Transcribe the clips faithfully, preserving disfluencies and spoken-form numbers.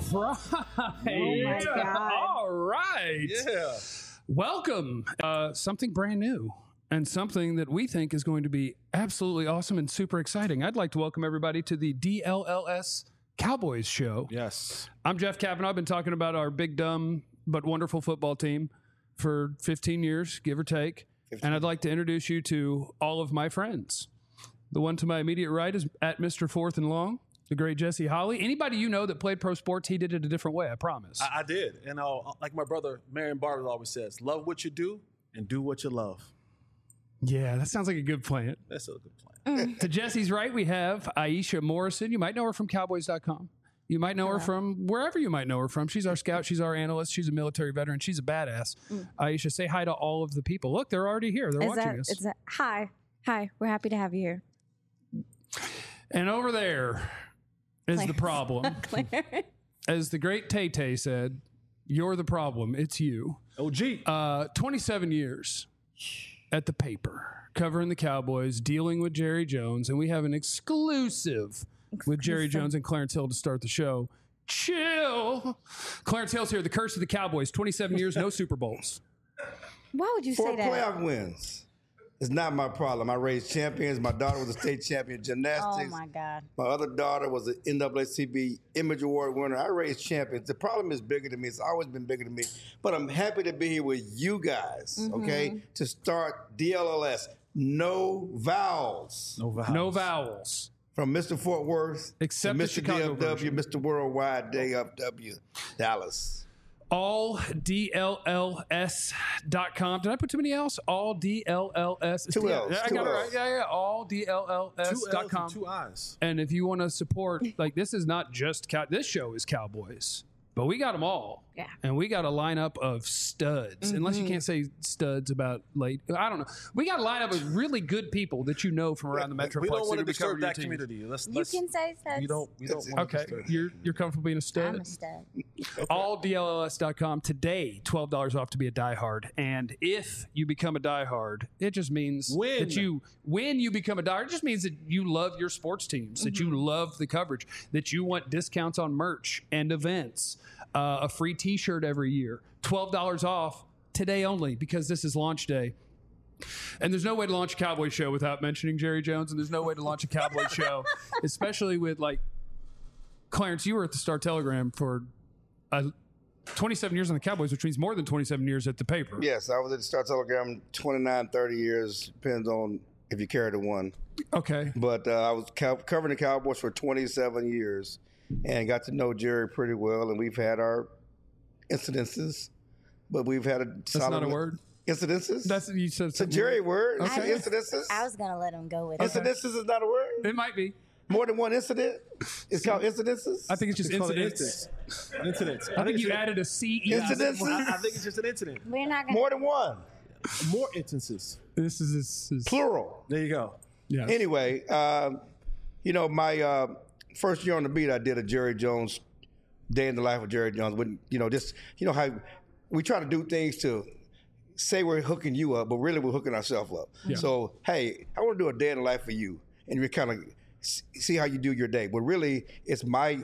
Right. Oh my God. All right. Yeah. Welcome. Uh, something brand new and something that we think is going to be absolutely awesome and super exciting. I'd like to welcome everybody to the D L L S Cowboys show. Yes. I'm Jeff Kavanaugh. I've been talking about our big, dumb, but wonderful football team for fifteen years, give or take. fifteen. And I'd like to introduce you to all of my friends. The one to my immediate right is at Mister Fourth and Long, the great Jesse Holley. Anybody you know that played pro sports, he did it a different way, I promise. I, I did. And uh, like my brother, Marion Barber, always says, love what you do and do what you love. Yeah, that sounds like a good plan. That's a good plan. To Jesse's right, we have Aisha Morrison. You might know her from Cowboys dot com. You might know her from wherever you might know her from. She's our scout. She's our analyst. She's a military veteran. She's a badass. Mm. Aisha, say hi to all of the people. Look, they're already here. They're is watching that, us. Is that, hi. Hi. We're happy to have you here. And over there is Claire. the problem. Claire. As the great Tay-Tay said, you're the problem. It's you. O G. Uh, twenty-seven years at the paper, covering the Cowboys, dealing with Jerry Jones, and we have an exclusive, exclusive. with Jerry Jones and Clarence Hill to start the show. Chill. Clarence Hill's here. The curse of the Cowboys. twenty-seven years, no Super Bowls. Why would you Four say that? playoff wins. It's not my problem. I raised champions. My daughter was a state champion in gymnastics. Oh, my God. My other daughter was an N double A C P Image Award winner. I raised champions. The problem is bigger than me. It's always been bigger than me. But I'm happy to be here with you guys, mm-hmm. okay, to start D L L S. No vowels. No vowels. No vowels. From Mister Fort Worth Except to Mister the Chicago D F W, version. Mister Worldwide, D F W, Dallas. all D L L S dot com. Did I put too many L's? all D L L S. Two L's. I two got it L's. right. Yeah, yeah. all D L L S dot com. Two L's and two I's. And if you want to support, like, this is not just cow- this show is Cowboys, but we got them all. Yeah. And we got a lineup of studs. Mm-hmm. Unless you can't say studs about late. I don't know. We got a lineup of really good people that you know from around the Metroplex. We don't want to that cover disturb your that team. community. Let's, You let's, can say studs. We don't, we don't want Okay. to disturb. You're you're comfortable being a stud? I'm a stud. all D L L S dot com today, twelve dollars off to be a diehard. And if you become a diehard, it just means When. that you, when you become a diehard, it just means that you love your sports teams, mm-hmm. that you love the coverage, that you want discounts on merch and events, uh, a free t-shirt every year, twelve dollars off today only because this is launch day. And there's no way to launch a Cowboy show without mentioning Jerry Jones, and there's no way to launch a Cowboy show, especially with, like, Clarence, you were at the Star Telegram for uh, twenty-seven years on the Cowboys, which means more than twenty-seven years at the paper. Yes, I was at the Star Telegram twenty-nine, thirty years, depends on if you carry the one. Okay. But uh, I was co- covering the Cowboys for twenty-seven years and got to know Jerry pretty well, and we've had our incidences, but we've had a That's solid... not a word? Incidences? That's you said. It's a Jerry word. Okay. It's incidences. I was going to let him go with Incidences it. is not a word? It might be. More than one incident? It's called incidences? I think it's just It's called an incidents. incident. Incidents. I think you it's- added a C E. Incidences? I, I think it's just an incident. We're not going More than one. More instances. This is, this is Plural. There you go. yeah. Anyway, um, you know, my uh, first year on the beat, I did a Jerry Jones, Day in the Life of Jerry Jones. When, you know, this, you know how we try to do things to say we're hooking you up, but really we're hooking ourselves up. Yeah. So, hey, I want to do a day in the life for you, and we kind of see how you do your day. But really, it's my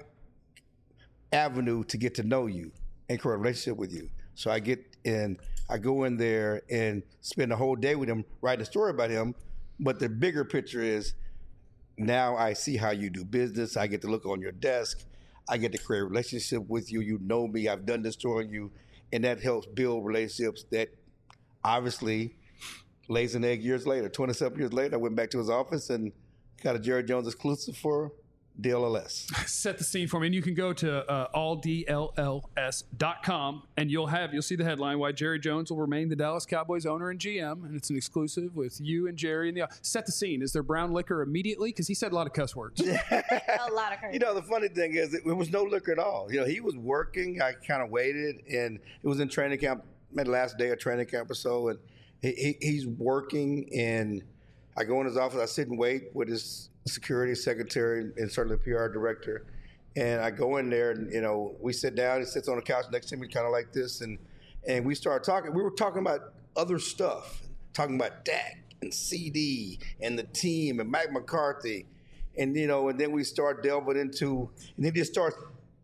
avenue to get to know you and create a relationship with you. So I get in, I go in there and spend the whole day with him, writing a story about him. But the bigger picture is now I see how you do business. I get to look on your desk. I get to create a relationship with you. You know me. I've done this story on you. And that helps build relationships that obviously lays an egg years later. twenty-seven years later, I went back to his office and got a Jerry Jones exclusive for D L L S. Set the scene for me, and you can go to uh, all D L L S dot com, and you'll have you'll see the headline: Why Jerry Jones will remain the Dallas Cowboys owner and G M, and it's an exclusive with you and Jerry. And the set the scene. Is there brown liquor immediately? Because he said a lot of cuss words. a lot of You know, the funny thing is, it, it was no liquor at all. You know, he was working. I kind of waited, and it was in training camp, maybe the last day of training camp or so, and he, he, he's working, and I go in his office. I sit and wait with his security secretary and certainly the P R director, and I go in there, and you know, we sit down. He sits on the couch next to me, kind of like this, and and we start talking. We were talking about other stuff, talking about Dak and C D and the team and Mike McCarthy. And, you know, and then we start delving into, and then he just starts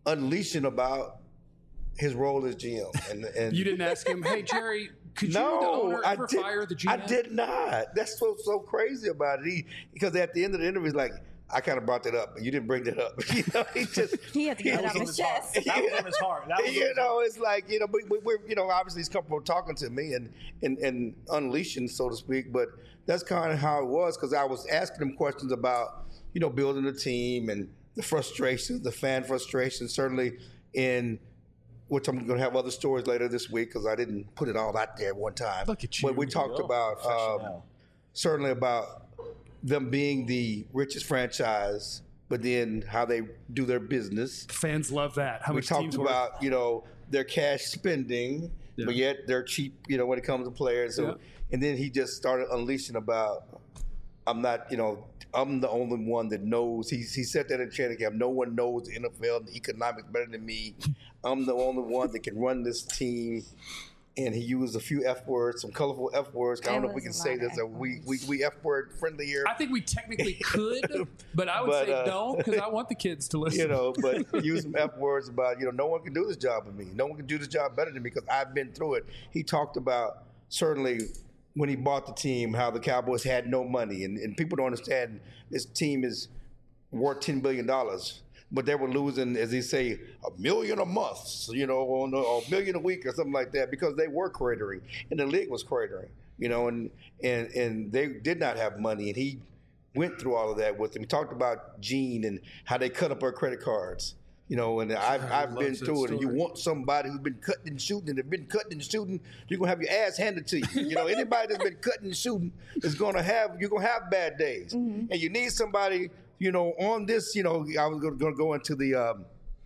unleashing about his role as G M. And, and You didn't ask him, hey, Jerry, could you, the no, owner, I ever did, fire the G M? I did not. That's what's so crazy about it. He, because at the end of the interview, he's like, I kind of brought that up, but you didn't bring that up. You know, he just He had to get it That off was his on his heart. chest. That was on his heart. That was on you his know, it's like, you know, we, we, we're, you know, obviously he's comfortable talking to me and, and, and unleashing, so to speak, but that's kind of how it was because I was asking him questions about, you know, building a team and the frustrations, the fan frustrations, certainly in which I'm going to have other stories later this week because I didn't put it all out there at one time. Look at you. But we talked Oh, about, um, professional. certainly about them being the richest franchise, but then how they do their business. Fans love that. How We much talked teams worth. about, you know, their cash spending, Yeah. but yet they're cheap, you know, when it comes to players. So, Yeah. and then he just started unleashing about, I'm not, you know, I'm the only one that knows. He, he said that in training camp. No one knows the N F L and the economics better than me. I'm the only one that can run this team. And he used a few F words, some colorful F words. I don't know if we can was a say lot of this. Are F we, we we F word friendly here. I think we technically could, but I would But, say uh, don't because I want the kids to listen. You know, but use some F words about, you know, no one can do this job with me. No one can do this job better than me because I've been through it. He talked about certainly when he bought the team, how the Cowboys had no money. And, and people don't understand this team is worth ten billion dollars. But they were losing, as they say, a million a month, you know, or a million a week or something like that because they were cratering and the league was cratering, you know, and, and, and they did not have money. And he went through all of that with them. He talked about Gene and how they cut up our credit cards. You know, and I've, I I've love been that through it. And you story. want somebody who's been cutting and shooting and have been cutting and shooting, you're gonna have your ass handed to you. You know, anybody that's been cutting and shooting is gonna have you're gonna have bad days, and you need somebody. You know, on this. You know, I was gonna, gonna go into the. Um,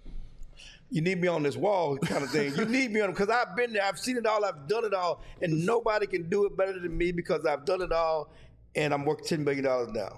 you need me on this wall kind of thing. You need me on because I've been there. I've seen it all. I've done it all, and nobody can do it better than me because I've done it all, and I'm worth ten billion dollars now.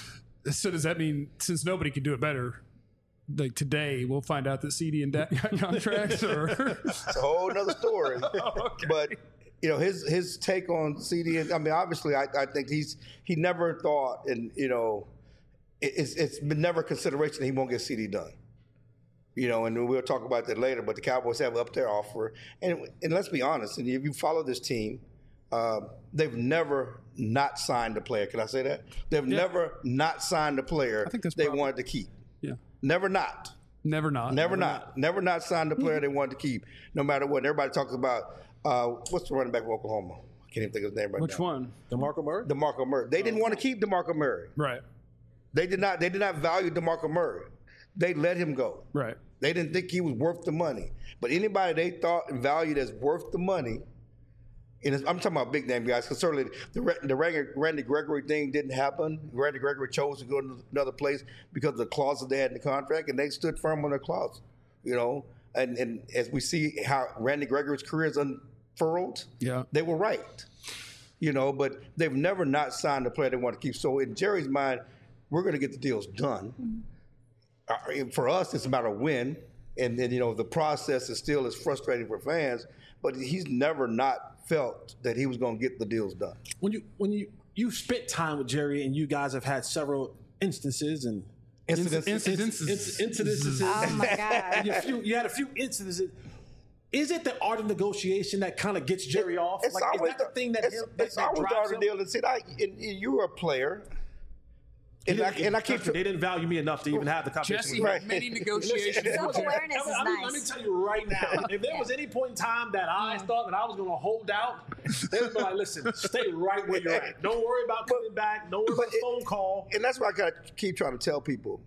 So does that mean since nobody can do it better, like today we'll find out that C D and Dak got contracts, or It's a whole nother story. okay. But you know his his take on C D. I mean, obviously, I, I think he's he never thought, and you know, it, it's it's been never a consideration that he won't get C D done. You know, and we'll talk about that later. But the Cowboys have up their offer, and and let's be honest. And if you follow this team, uh, they've never not signed a player. Can I say that? They've Yeah. never not signed a player I think that's they probably- wanted to keep. yeah, Never not. never not, Never not. Never not signed the player they wanted to keep, no matter what. And everybody talks about uh, what's the running back for Oklahoma? I can't even think of his name right Which now. one? DeMarco Murray? DeMarco Murray. They didn't want to keep DeMarco Murray. Right, They did not. They did not value DeMarco Murray. They let him go. right. They didn't think he was worth the money. But anybody they thought and valued as worth the money, and it's- I'm talking about big name guys, because certainly the, Ra- the Randy Randy Gregory thing didn't happen. Randy Gregory chose to go to another place because of the clauses they had in the contract, and they stood firm on their clause. You know, and, and as we see how Randy Gregory's career is unfurled, Yeah. they were right. You know, but they've never not signed a player they want to keep. So in Jerry's mind, we're going to get the deals done. Uh, for us, it's about a win, and then you know the process is still as frustrating for fans. But he's never not felt that he was going to get the deals done. When you when you you spent time with Jerry and you guys have had several instances and Incidents. Incidents. inc- incidences. Oh my God. you, few, you had a few incidences. Is it the art of negotiation that kind of gets Jerry off? It's like, always is that the thing that it's, him, that, it's that always the drives art of him? the deal. And see, I, and, and you were a player, and I, and I keep. They didn't value me enough to even have the conversation. Jesse with me. had many negotiations. with Jerry. Self-awareness I mean, is I mean, Let me nice. tell you right now, if there was any point in time that I thought that I was going to hold out, they would be like, listen, stay right where you're at. Don't worry about coming back. Don't worry but about the it- phone call. And that's what I got to keep trying to tell people.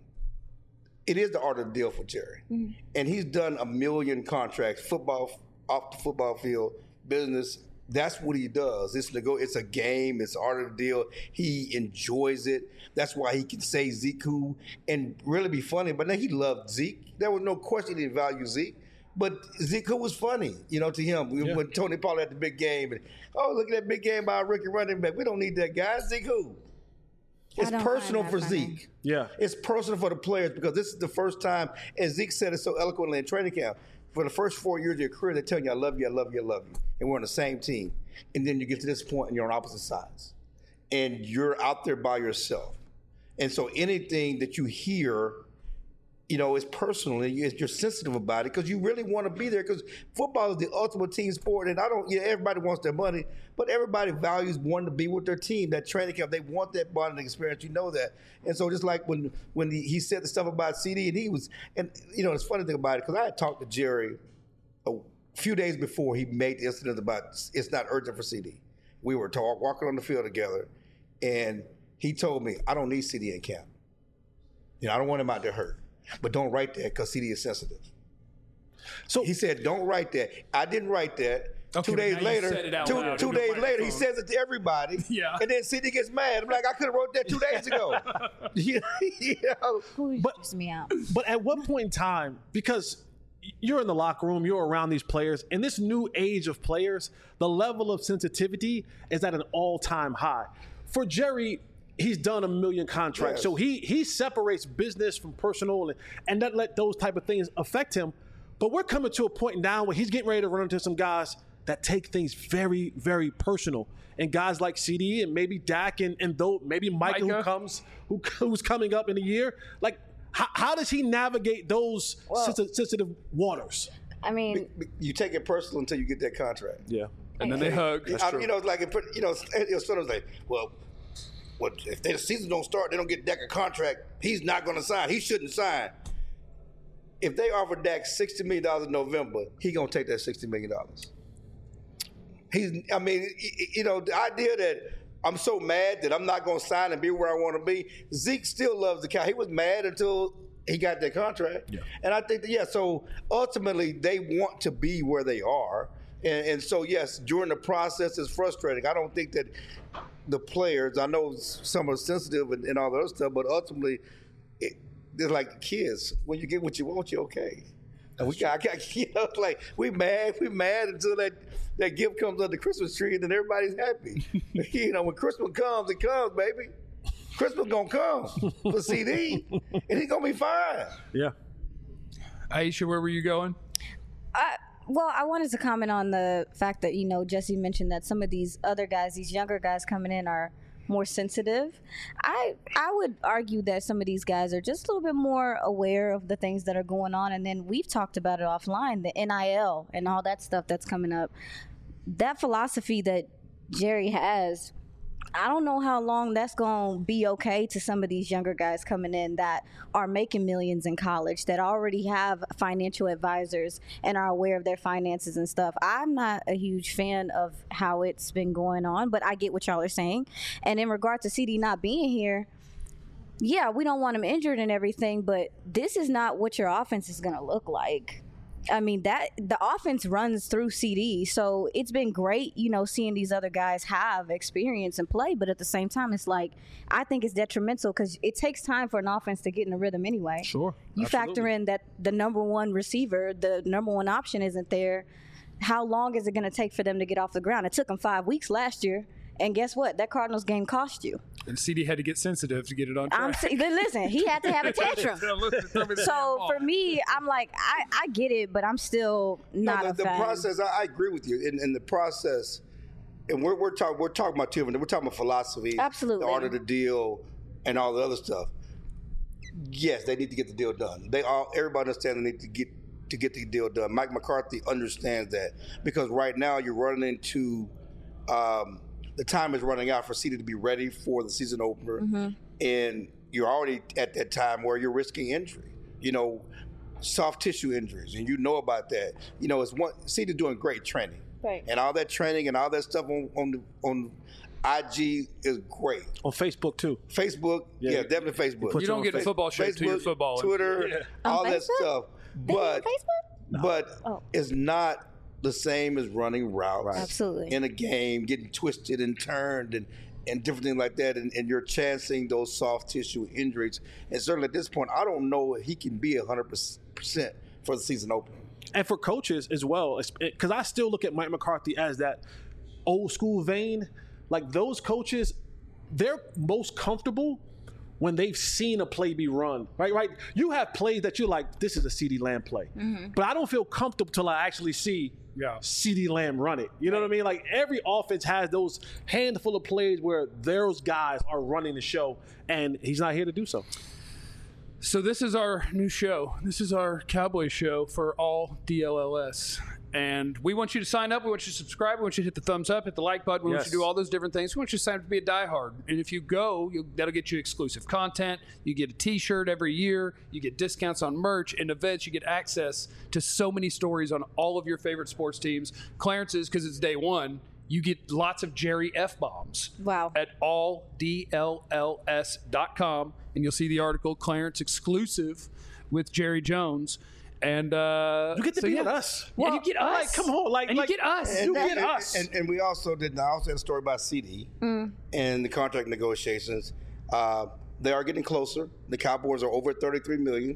It is the art of the deal for Jerry, and he's done a million contracts, football off the football field, business. That's what he does. It's nego- It's a game. It's art of the deal. He enjoys it. That's why he can say Zeke who and really be funny. But then he loved Zeke. There was no question he didn't value Zeke. But Zeke who was funny, you know, to him. Yeah. When Tony Pollard had the big game, and oh, look at that big game by a rookie running back. We don't need that guy. Zeke who? It's don't personal find for that funny. Zeke. Yeah. It's personal for the players because this is the first time, as Zeke said it so eloquently in training camp, for the first four years of your career, they're telling you, I love you, I love you, I love you. And we're on the same team. And then you get to this point and you're on opposite sides. And you're out there by yourself. And so anything that you hear you know, it's personal and you- you're sensitive about it because you really want to be there because football is the ultimate team sport. And I don't, yeah, everybody wants their money, but everybody values wanting to be with their team, that training camp. They want that bonding experience. You know that. And so just like when when he, he said the stuff about C D and he was, and, you know, it's funny thing about it because I had talked to Jerry a few days before he made the incident about it's not urgent for C D. We were talk, walking on the field together and he told me, I don't need C D in camp. You know, I don't want him out there hurt. But don't write that because C D is sensitive. So He said, don't write that. I didn't write that. Okay, two but days now you later, said it out two, loud two into the days later, he microphone. says it to everybody. Yeah. And then C D gets mad. I'm like, I could have wrote that two days ago. you know? Who But- but, me out? But at what point in time, because you're in the locker room, you're around these players, in this new age of players, the level of sensitivity is at an all-time high. For Jerry, he's done a million contracts, Yes. so he he separates business from personal and, and not let those type of things affect him. But we're coming to a point now where he's getting ready to run into some guys that take things very, very personal. And guys like C D and maybe Dak and, and though maybe Micah, Micah. who comes who who's coming up in a year, like. How, how does he navigate those Well- sensitive, sensitive waters? I mean, You take it personal until you get that contract. Yeah. And then they hug. I, you know, it's like, it put, you know, it was sort of like, well, what if they, the season don't start, they don't get Dak a contract, he's not going to sign. He shouldn't sign. If they offer Dak sixty million dollars in November, he going to take that sixty million dollars. He's, I mean, y- y- you know, the idea that I'm so mad that I'm not going to sign and be where I want to be. Zeke still loves the cow. He was mad until he got that contract. Yeah. And I think that, yeah, so ultimately they want to be where they are. And, and so, yes, during the process, it's frustrating. I don't think that the players, I know some are sensitive and, and all that other stuff, but ultimately, it, they're like kids. When you get what you want, you're okay. And we got, you know, it's like we mad, we mad until that, that gift comes on the Christmas tree, and then everybody's happy. You know, when Christmas comes, it comes, baby. Christmas gonna come for C D, and he's gonna be fine. Yeah. Aisha, where were you going? I, well, I wanted to comment on the fact that, you know, Jesse mentioned that some of these other guys, these younger guys coming in are more sensitive. I I would argue that some of these guys are just a little bit more aware of the things that are going on. And then we've talked about it offline, the N I L and all that stuff that's coming up. That philosophy that Jerry has, I don't know how long that's going to be okay to some of these younger guys coming in that are making millions in college, that already have financial advisors and are aware of their finances and stuff. I'm not a huge fan of how it's been going on, but I get what y'all are saying. And in regard to C D not being here, yeah, we don't want him injured and everything, but this is not what your offense is going to look like. I mean, that the offense runs through C D, so it's been great, you know, seeing these other guys have experience and play, but at the same time, it's like, I think it's detrimental because it takes time for an offense to get in a rhythm anyway. Sure. You factor Absolutely. in that the number one receiver, the number one option isn't there. How long is it going to take for them to get off the ground? It took them five weeks last year, and guess what? That Cardinals game cost you. And C D had to get sensitive to get it on track. I'm saying, listen, he had to have a tantrum. So for me, I'm like, I, I get it, but I'm still not no, a the, the fan. process. I, I agree with you. In, in the process, and we're we're talking we're talking about two. We're talking about philosophy, Absolutely. the art of the deal, and all the other stuff. Yes, they need to get the deal done. They all everybody understands they need to get to get the deal done. Mike McCarthy understands that because right now you're running into. Um, the time is running out for C D to be ready for the season opener, Mm-hmm. and you're already at that time where you're risking injury. You know, soft tissue injuries, and you know about that. You know, it's one C D doing great training, Right. and all that training and all that stuff on on the, on I G is great. On Facebook, too. Facebook, yeah, Yeah. definitely Facebook. put you don't on get a Facebook. football show to your Facebook, football. Twitter, all On that Facebook? stuff, They have but Facebook? but Oh. it's not the same as running routes Absolutely. in a game, getting twisted and turned and, and different things like that, and, and you're chancing those soft tissue injuries. And certainly at this point, I don't know if he can be one hundred percent for the season opener. And for coaches as well, because I still look at Mike McCarthy as that old school vein. Like those coaches, they're most comfortable when they've seen a play be run, right? Right. You have plays that you're like, this is a CeeDee Lamb play, but I don't feel comfortable till I actually see Yeah. CeeDee Lamb run it. You know what I mean? Like every offense has those handful of plays where those guys are running the show, and he's not here to do so. So this is our new show. This is our Cowboy show for all D L L S. And we want you to sign up. We want you to subscribe. We want you to hit the thumbs up, hit the like button. We Yes. want you to do all those different things. We want you to sign up to be a diehard. And if you go, you'll, that'll get you exclusive content. You get a T-shirt every year. You get discounts on merch and events. You get access to so many stories on all of your favorite sports teams. Clarence's, because it's day one, you get lots of Jerry F-bombs. Wow. At all D L L S dot com. And you'll see the article, Clarence exclusive with Jerry Jones. And uh, You get to so, be yeah. with us. and you get us. Like, come on, like, and like, you get us. You And, get and, us. and, and we also did. I also had a story about C D Mm. and the contract negotiations. Uh, they are getting closer. The Cowboys are over thirty-three million,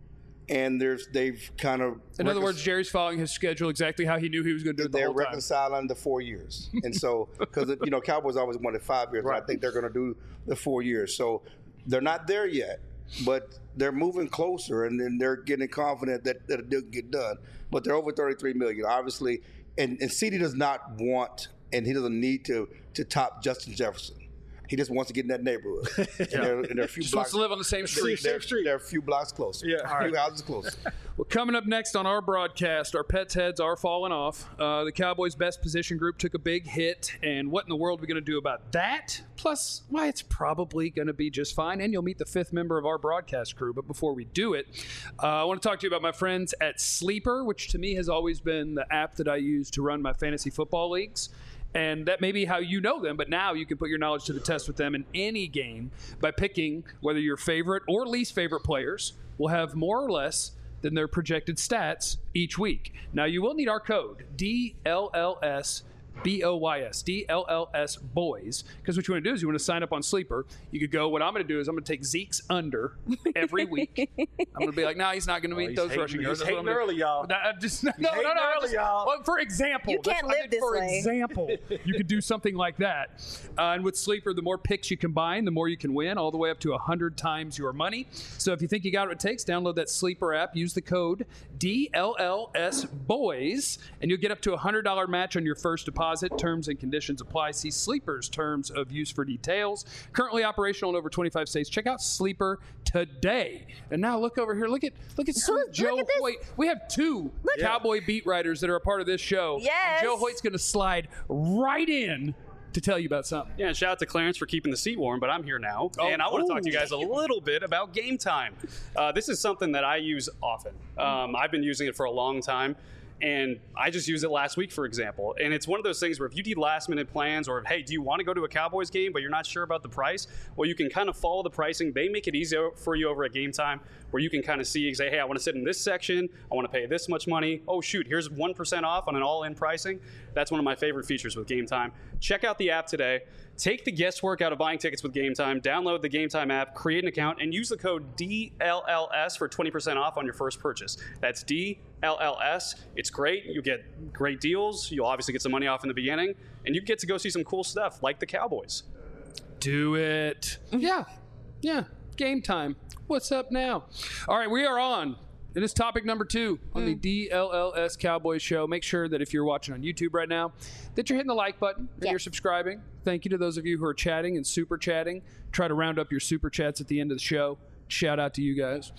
and there's they've kind of. In other recon- words, Jerry's following his schedule exactly how he knew he was going to do it the they're whole time. reconciling the four years, and so because you know Cowboys always wanted five years, Right. and I think they're going to do the four years. So they're not there yet, but they're moving closer, and then they're getting confident that that it will get done. But they're over thirty-three million, obviously, and and C D does not want, and he doesn't need to to top Justin Jefferson. He just wants to get in that neighborhood, and, there, and there are a few Just blocks. wants to live on the same street. They're, they're a few blocks closer. Yeah. a few houses closer. Well, coming up next on our broadcast, our pets' heads are falling off. Uh, the Cowboys' best position group took a big hit, and what in the world are we going to do about that? Plus, why it's probably going to be just fine, and you'll meet the fifth member of our broadcast crew. But before we do it, uh, I want to talk to you about my friends at Sleeper, which to me has always been the app that I use to run my fantasy football leagues. And that may be how you know them, but now you can put your knowledge to the test with them in any game by picking whether your favorite or least favorite players will have more or less than their projected stats each week. Now, you will need our code, D L L S B O Y S, D L L S boys, because what you want to do is you want to sign up on Sleeper. You could go, what I'm going to do is I'm going to take Zeke's under every week. I'm going to be like, no, nah, he's not going to meet he's those hating- rushing he's yards. That's what hating I'm gonna- early, y'all. Nah, I'm just, no, no, no, hating no. I'm early, just- y'all. well, for example. You that's can't what I live did this for way. example, you could do something like that. Uh, and with Sleeper, the more picks you combine, the more you can win, all the way up to one hundred times your money. So if you think you got what it takes, download that Sleeper app, use the code D L L S boys, and you'll get up to a one hundred dollars match on your first deposit. Terms and conditions apply. See Sleeper's terms of use for details. Currently operational in over twenty-five states. Check out Sleeper today. And now look over here. Look at look at Look- look Joe at this. Hoyt. We have two Cowboy beat writers that are a part of this show. Yes. And Joe Hoyt's going to slide right in to tell you about something. Yeah, and shout out to Clarence for keeping the seat warm, but I'm here now, Oh, and I want to talk to you ooh. guys a little bit about Game Time. Uh, this is something that I use often. Um, I've been using it for a long time, and I just used it last week, for example. And it's one of those things where if you need last-minute plans, or hey, do you want to go to a Cowboys game, but you're not sure about the price? Well, you can kind of follow the pricing. They make it easy for you over at Game Time, where you can kind of see, say, hey, I want to sit in this section. I want to pay this much money. Oh, shoot, here's one percent off on an all-in pricing. That's one of my favorite features with Game Time. Check out the app today. Take the guesswork out of buying tickets with Game Time. Download the Game Time app, create an account, and use the code D L L S for twenty percent off on your first purchase. That's D L L S. It's great. You get great deals. You'll obviously get some money off in the beginning, and you get to go see some cool stuff like the Cowboys. Do it. Yeah. Yeah. Game time. What's up now? All right, we are on. It is topic number two on the D L L S Cowboys show. Make sure that if you're watching on YouTube right now, that you're hitting the like button and Yeah. you're subscribing. Thank you to those of you who are chatting and super chatting. Try to round up your super chats at the end of the show. Shout out to you guys.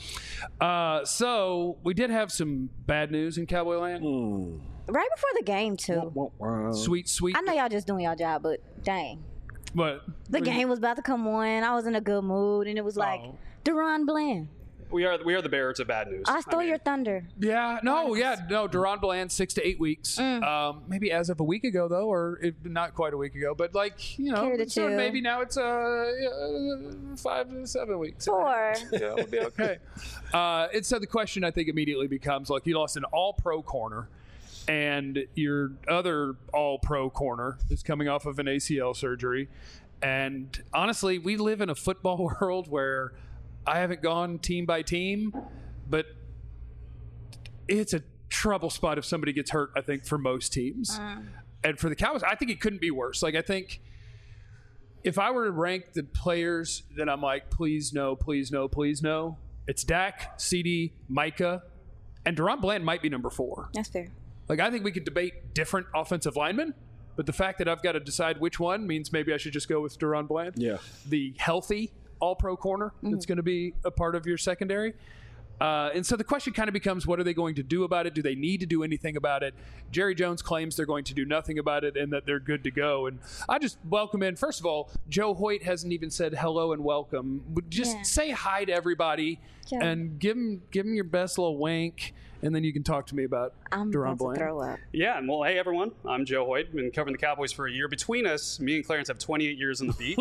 Uh, so we did have some bad news in Cowboy Land. Right before the game too. Sweet, sweet. I know y'all just doing y'all job, but dang, But the game was about to come on. I was in a good mood, and it was like Oh. Deron Bland. We are we are the bearers of bad news. I stole mean, your thunder. Yeah, no, yeah, no. Deron Bland, six to eight weeks. Mm. Um, maybe as of a week ago, though, or if not quite a week ago, but like you know, Carry the so two. maybe now it's uh, uh five to seven weeks. Four. Yeah, we'll be okay. uh, and so the question I think immediately becomes like you lost an All-Pro corner, and your other All-Pro corner is coming off of an A C L surgery, and honestly, we live in a football world where I haven't gone team by team, but it's a trouble spot if somebody gets hurt, I think, for most teams. And for the Cowboys, I think it couldn't be worse. Like, I think if I were to rank the players that I'm like, please no, please no, please no, it's Dak, C D, Micah, and Deron Bland might be number four. That's fair. Like, I think we could debate different offensive linemen, but the fact that I've got to decide which one means maybe I should just go with Deron Bland. Yeah. The healthy all-pro corner Mm-hmm. that's going to be a part of your secondary. Uh, and so the question kind of becomes, what are they going to do about it? Do they need to do anything about it? Jerry Jones claims they're going to do nothing about it and that they're good to go. And I just welcome in. First of all, Joe Hoyt hasn't even said hello and welcome. But just Yeah. say hi to everybody Joe. and give them, give them your best little wink, and then you can talk to me about I'm Deron about to Bland. throw up. Yeah, and well, hey everyone, I'm Joe Hoyt. Been covering the Cowboys for a year. Between us, me and Clarence have twenty-eight years in the beat.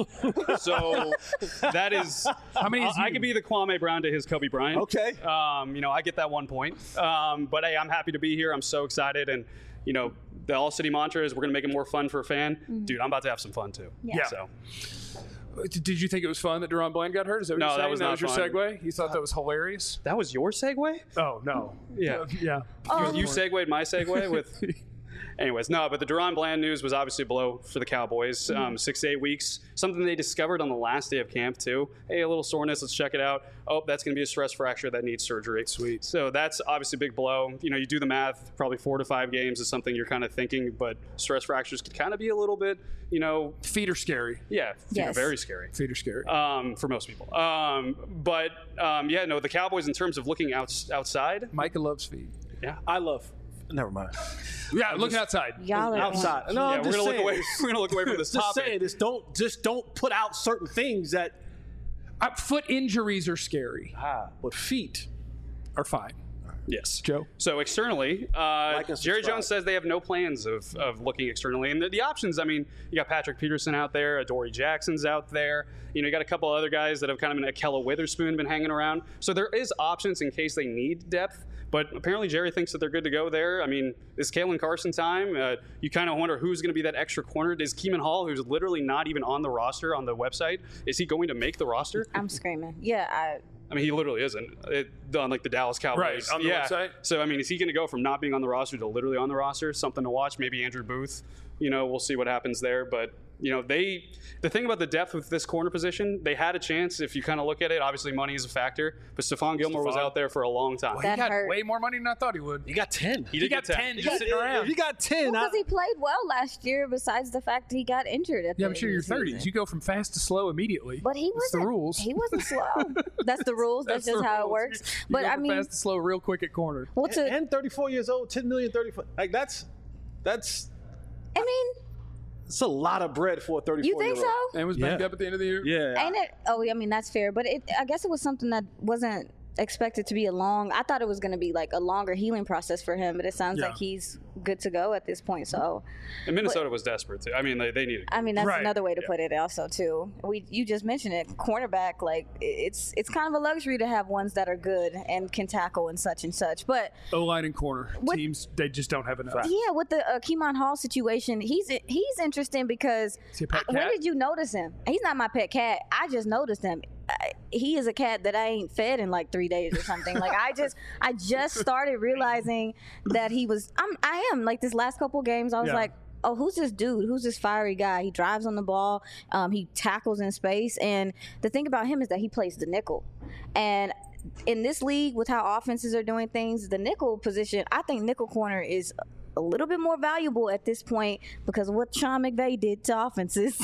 So that is How many is I, I you? could be the Kwame Brown to his Kobe Bryant. Okay. Um, you know, I get that one point. Um, but hey, I'm happy to be here. I'm so excited, and you know, the All City mantra is we're gonna make it more fun for a fan. Mm-hmm. Dude, I'm about to have some fun too. Yeah. So Did you think it was fun that Deron Bland got hurt? Is that what No, you're that saying? was that not was your fun. segue? You thought that was hilarious? that was your segue? Oh, no. Yeah. Yeah. Oh. You segued my segue with. Anyways, no, but the Deron Bland news was obviously a blow for the Cowboys. Um, six to eight weeks. Something they discovered on the last day of camp, too. Hey, a little soreness. Let's check it out. Oh, that's going to be a stress fracture that needs surgery. Sweet. So that's obviously a big blow. You know, you do the math, probably four to five games is something you're kind of thinking, but stress fractures could kind of be a little bit, you know, Feet are scary. yeah, you know, Yes. very scary. Feet are scary. Um, for most people. Um, but, um, yeah, no, the Cowboys, in terms of looking out, outside, Micah loves feet. I love. Never mind. Yeah, looking outside. Y'all are Outside. No, yeah, I'm we're just gonna look saying, away. this- We're gonna look away from this Just topic. saying this. Don't just don't put out certain things that. Uh, foot injuries are scary. Ah, but feet. Are fine. Yes. Joe? So externally, uh, Like and Jerry subscribe. Jones says they have no plans of, of looking externally. And the, the options, I mean, you got Patrick Peterson out there, Adoree Jackson's out there. You know, you got a couple other guys that have kind of been, Akella Witherspoon been hanging around. So there is options in case they need depth. But apparently Jerry thinks that they're good to go there. I mean, it's Kalen Carson time. Uh, you kind of wonder who's going to be that extra corner. Is Keeman Hall, who's literally not even on the roster on the website, is he going to make the roster? I'm screaming. Yeah, I. I mean, he literally isn't it, on like the Dallas Cowboys. Right, on the yeah. website. So, I mean, is he going to go from not being on the roster to literally on the roster? Something to watch. Maybe Andrew Booth. You know, we'll see what happens there. But, you know, they – the thing about the depth with this corner position, they had a chance if you kind of look at it. Obviously, money is a factor. But Stephon Gilmore was Stephon. out there for a long time. He That got hurt. way more money than I thought he would. You got ten. he did got get ten You just got- sitting around. If you got ten, Because I, he played well last year, besides the fact he got injured at Yeah, the I'm sure end you're of the thirties. season. You go from fast to slow immediately. But he That's wasn't. the rules. He wasn't slow. That's the rules. That's, That's just the how it rules. works. You But go I from mean, fast to slow real quick at corner. well, to and thirty-four years old, ten million, thirty-four. Like that's that's I mean, it's a lot of bread for a thirty-four. you think year old. so? And was banged Yeah. up at the end of the year. Yeah. Ain't it? Oh, I mean, that's fair. But it, I guess it was something that wasn't expected to be a long. I thought it was going to be like a longer healing process for him, but it sounds Yeah. like he's good to go at this point. So, And Minnesota was desperate, too. I mean, they, they needed I mean, that's Right. another way to Yeah. put it. Also, too, we you just mentioned it. Cornerback, like it's it's kind of a luxury to have ones that are good and can tackle and such and such. But O line and corner What- teams, they just don't have enough. yeah, with the uh, Keemon Hall situation, he's he's interesting because Is he a pet I- when cat? did you notice him? He's not my pet cat. I just noticed him. I, he is a cat that I ain't fed in like three days or something. Like I just I just started realizing that he was. I'm I am like this last couple games. I was Yeah. like. Oh, who's this dude? Who's this fiery guy? He drives on the ball. Um, he tackles in space. And the thing about him is that he plays the nickel. And in this league, with how offenses are doing things, the nickel position, I think nickel corner is a little bit more valuable at this point because of what Sean McVay did to offenses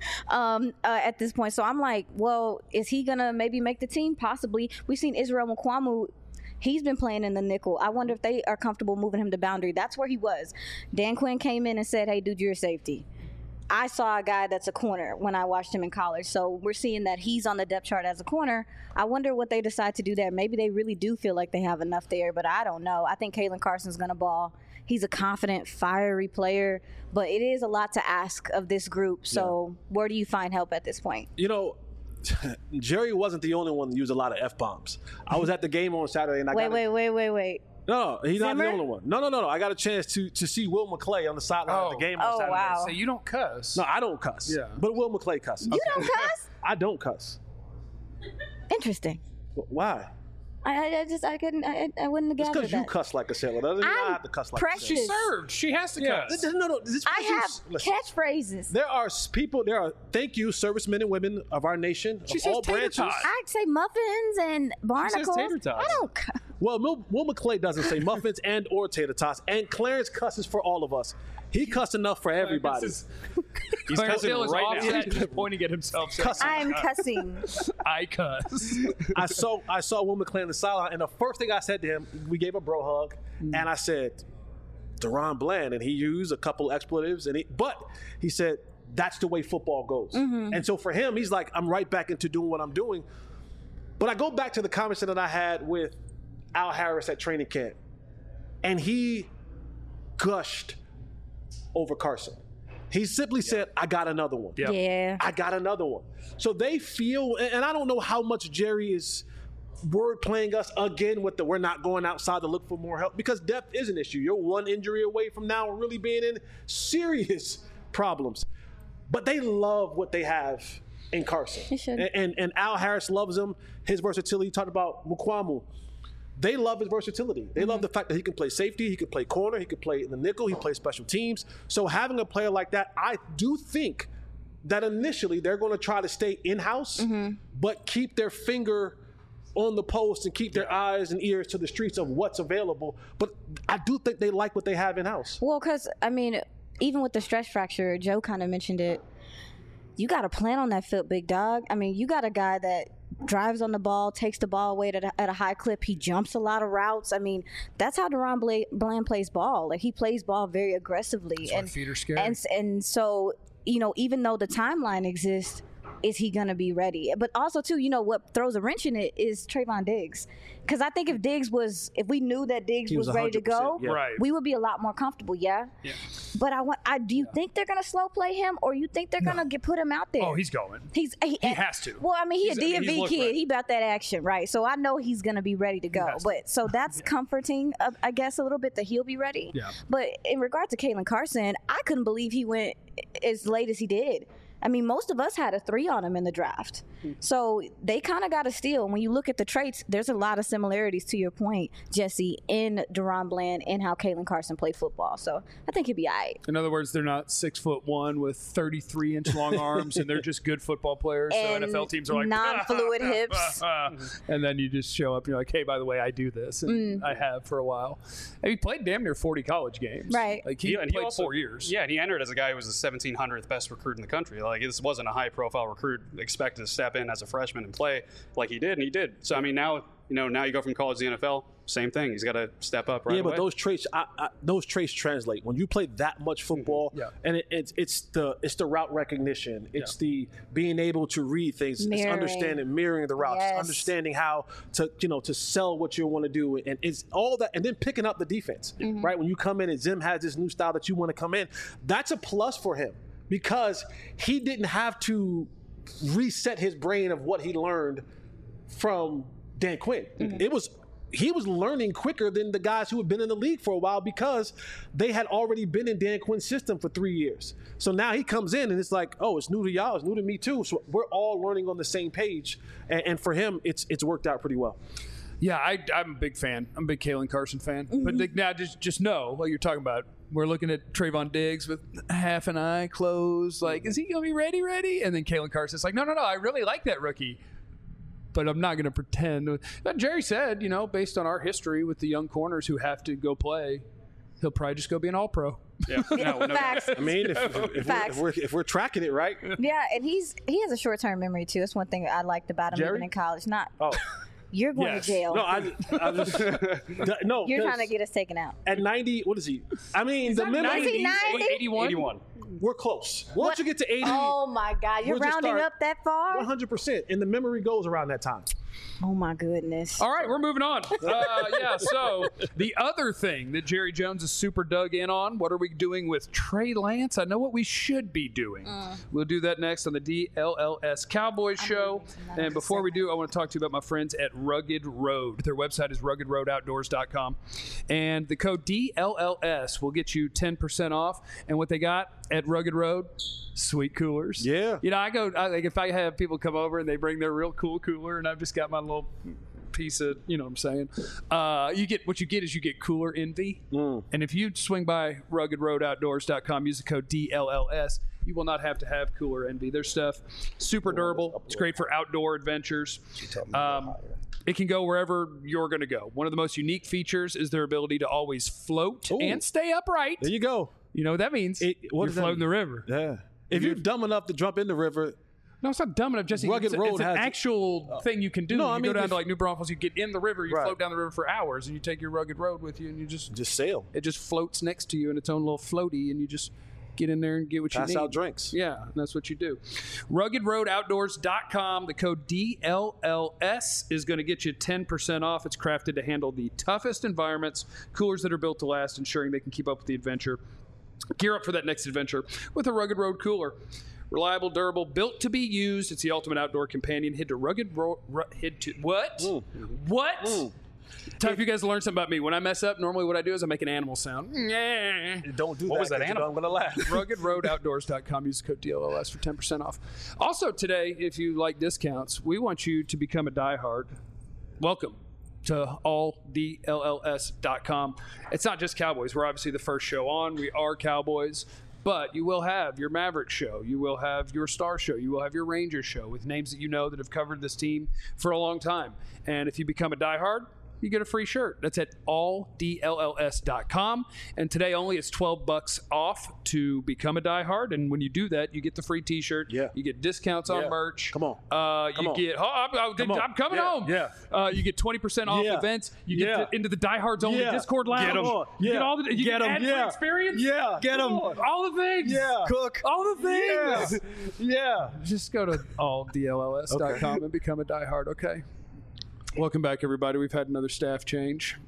um, uh, at this point. So I'm like, well, is he going to maybe make the team? Possibly. We've seen Israel Mukwamu. He's been playing in the nickel. I wonder if they are comfortable moving him to boundary. That's where he was. Dan Quinn came in and said, hey, dude, you're a safety. I saw a guy that's a corner when I watched him in college. So we're seeing that he's on the depth chart as a corner. I wonder what they decide to do there. Maybe they really do feel like they have enough there, but I don't know. I think Kalen Carson's going to ball. He's a confident, fiery player, but it is a lot to ask of this group. So where do you find help at this point? You know, Jerry wasn't the only one that used a lot of F bombs. I was at the game on Saturday and I Wait, got wait, wait, wait, wait. No, he's not the Zimmer? only one. No, no, no, no. I got a chance to to see Will McClay on the sideline Oh. of the game on Oh, Saturday. wow. So you don't cuss. No, I don't cuss. Yeah. But Will McClay cusses. You don't cuss? I don't cuss. Interesting. Why? I, I just, I couldn't, I, I wouldn't have It's gathered because you that. cuss like a sailor. Doesn't mean I I'm have to cuss like precious. a She sailor. served. She has to Yeah. cuss. Th- No, no. This I have listen, catchphrases. There are s- people. There are thank you, servicemen and women of our nation, She of says all tater branches. tot. I'd say muffins and barnacles. tater tots. I don't. cu- Well, Will, Will McClay doesn't say muffins and or tater tots, and Clarence cusses for all of us. He cussed enough for everybody. He's Clarence cussing Hill is right offset, now. just pointing at himself. saying, Cussing. I'm cussing. I cuss. I saw I saw Will McClay in the sideline, and the first thing I said to him, we gave a bro hug, and I said, Deron Bland, and he used a couple expletives, and he, but he said that's the way football goes. And so for him, he's like, I'm right back into doing what I'm doing. But I go back to the conversation that I had with Al Harris at training camp, and he gushed over Carson. He simply said, I got another one. Yeah. Yeah. I got another one. So they feel, and I don't know how much Jerry is word playing us again with the we're not going outside to look for more help, because depth is an issue. You're one injury away from now really being in serious problems. But they love what they have in Carson. They should. And, and, and Al Harris loves him, his versatility. You talked about Mukwamu. They love his versatility. They mm-hmm. love the fact that he can play safety, he can play corner, he can play in the nickel, he plays special teams. So having a player like that, I do think that initially they're going to try to stay in-house, mm-hmm. but keep their finger on the post and keep their yeah. eyes and ears to the streets of what's available. But I do think they like what they have in-house. Well, because, I mean, even with the stress fracture, Joe kind of mentioned it, you got to plan on that foot, big dog. I mean, you got a guy that drives on the ball, takes the ball away at a, at a high clip. He jumps a lot of routes. I mean, that's how Deron Bla- Bland plays ball. Like, he plays ball very aggressively. That's and why feet are scary. And, and so, you know, even though the timeline exists, is he going to be ready? But also, too, you know, what throws a wrench in it is Trayvon Diggs. Because I think if Diggs was, if we knew that Diggs He was, was ready to go, one hundred percent, yeah. Right. we would be a lot more comfortable, yeah? Yeah. But I want, I, do you think they're going to slow play him, or you think they're going to get put him out there? Oh, he's going. He's he, He has to. Well, I mean, he's, He's- a D M V he's looked kid. ready. He about that action, right? So I know he's going to be ready to go. has to. But so that's comforting, uh, I guess, a little bit that he'll be ready. Yeah. But in regard to Kalen Carson, I couldn't believe he went as late as he did. I mean, most of us had a three on him in the draft. So they kind of got a steal. And when you look at the traits, there's a lot of similarities, to your point, Jesse, in Deron Bland and how Kalen Carson played football. So I think he'll be all right. In other words, they're not six foot one with thirty-three inch long arms, and they're just good football players. So And N F L teams are like non-fluid hips. and then you just show up and you're like, hey, by the way, I do this, and I have for a while. And he played damn near forty college games. Right. Like he Yeah, and played he also, four years. Yeah, and he entered as a guy who was the seventeen hundredth best recruit in the country. Like, this wasn't a high-profile recruit expected to step in as a freshman and play like he did, and he did. So I mean, now you know, now you go from college to the N F L, same thing. He's got to step up right Yeah, but away. those traits, I, I, those traits translate when you play that much football. Yeah. And it, it's it's the it's the route recognition. It's the being able to read things. It's Mirroring. understanding, mirroring the routes, Yes. understanding how to you know to sell what you want to do, and it's all that, and then picking up the defense. Right when you come in and Zim has this new style that you want to come in, that's a plus for him because he didn't have to reset his brain of what he learned from Dan Quinn. It was he was learning quicker than the guys who had been in the league for a while because they had already been in Dan Quinn's system for three years. So now he comes in and it's like, oh, it's new to y'all, it's new to me too. So we're all learning on the same page, and, and for him, it's it's worked out pretty well. Yeah, I, I'm a big fan. I'm a big Kalen Carson fan. But like, now just just know what you're talking about. We're looking at Trayvon Diggs with half an eye closed. Like, is he going to be ready, ready? And then Kalen Carson's like, no, no, no, I really like that rookie. But I'm not going to pretend. But Jerry said, you know, based on our history with the young corners who have to go play, he'll probably just go be an all-pro. yeah, no, no, Facts. I mean, if, if, if, we're, Facts. if, we're, if we're tracking it right, Yeah, and he's he has a short-term memory, too. That's one thing I liked about him Jerry? even in college. Not oh you're going Yes. to jail. no, I, I just no. You're 'cause trying to get us taken out. at ninety. What is he? I mean, the memory. Was he ninety? eighty-one? eighty-one. We're close. Once What? you get to eighty, Oh, my God. You're we'll just rounding start up that far? one hundred percent, and the memory goes around that time. Oh, my goodness. All right, we're moving on. Uh, yeah, so the other thing that Jerry Jones is super dug in on, what are we doing with Trey Lance? I know what we should be doing. We'll do that next on the D L L S Cowboys Show. And before we do, I want to talk to you about my friends at Rugged Road. Their website is rugged road outdoors dot com. And the code D L L S will get you ten percent off. And what they got at Rugged Road? Sweet coolers. Yeah. You know, I go, I, like if I have people come over and they bring their real cool cooler and I've just got my little piece of, you know what I'm saying? Uh, you get, what you get is you get cooler envy. Mm. And if you swing by rugged road outdoors dot com, use the code D L L S, you will not have to have cooler envy. Their stuff, super durable. It's great for outdoor adventures. Um, It can go wherever you're going to go. One of the most unique features is their ability to always float Ooh. and stay upright. There you go. You know what that means? It- what you're does that floating mean? the river. Yeah. If you're dumb enough to jump in the river, No, it's not dumb enough, Jesse. Rugged it's, a- Road it's an has- actual thing you can do. No, you I go mean, down if- to like New Braunfels, you get in the river, you Right. float down the river for hours, and you take your Rugged Road with you, and you just just sail. it just floats next to you in its own little floaty, and you just get in there and get what Pass you need. out drinks. Yeah, and that's what you do. rugged road outdoors dot com. The code D L L S is going to get you ten percent off. It's crafted to handle the toughest environments, coolers that are built to last, ensuring they can keep up with the adventure. Gear up for that next adventure with a Rugged Road cooler. Reliable, durable, built to be used. It's the ultimate outdoor companion. Head to Rugged Road. Ru- head to what? Mm. What? Mm. Time for you guys to learn something about me. When I mess up, normally what I do is I make an animal sound. Yeah. Don't do What that. was that 'cause you know animal? I'm gonna laugh. rugged road outdoors dot com. Use the code D L L S for ten percent off. Also today, if you like discounts, we want you to become a diehard. Welcome to all D L L S dot com. It's not just Cowboys. We're obviously the first show on. We are Cowboys. But you will have your Maverick show. You will have your Star show. You will have your Rangers show with names that you know that have covered this team for a long time. And if you become a diehard, you get a free shirt. That's at all D L L S dot com. And today only it's twelve bucks off to become a diehard. And when you do that, you get the free t-shirt. Yeah. You get discounts on Yeah. merch. Come on. Uh, Come you on. get, oh, I'm, I'm, Come on. I'm coming Yeah. home. Yeah. Uh, you get twenty percent off Yeah. events. You get Yeah. to, into the diehards only Yeah. Discord lounge. Get 'em. You Yeah. get all the, you Get get 'em. ad-free Yeah. experience. Yeah. Get 'em. All the things. Yeah. Cook. All the things. Yeah. Just go to all D L L S dot com and become a diehard, okay? Welcome back, everybody. We've had another staff change.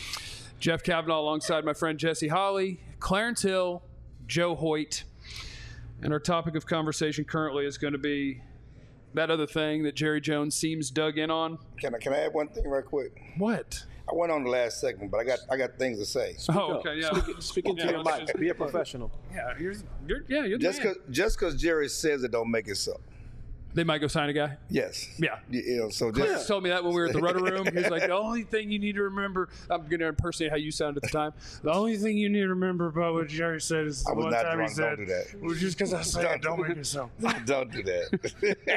Jeff Kavanaugh alongside my friend Jesse Holly, Clarence Hill, Joe Hoyt. And our topic of conversation currently is going to be that other thing that Jerry Jones seems dug in on. Can I can I add one thing right quick? What? I went on the last segment, but I got I got things to say. Oh, okay, yeah. Speak, speak into Yeah, your let's mic. just- Be a professional. Yeah, you're, you're, yeah, you're the Just man. cause just cause Jerry says it don't make it so. They might go sign a guy. Yes. Yeah. You, you know, so Clarence just told me that when we were at the Rudder Room. He was like, the only thing you need to remember, I'm going to impersonate how you sounded at the time. The only thing you need to remember about what Jerry said is I was one not time he drunk. said, Don't do that. well, just because I said it, don't make it so. Don't do that.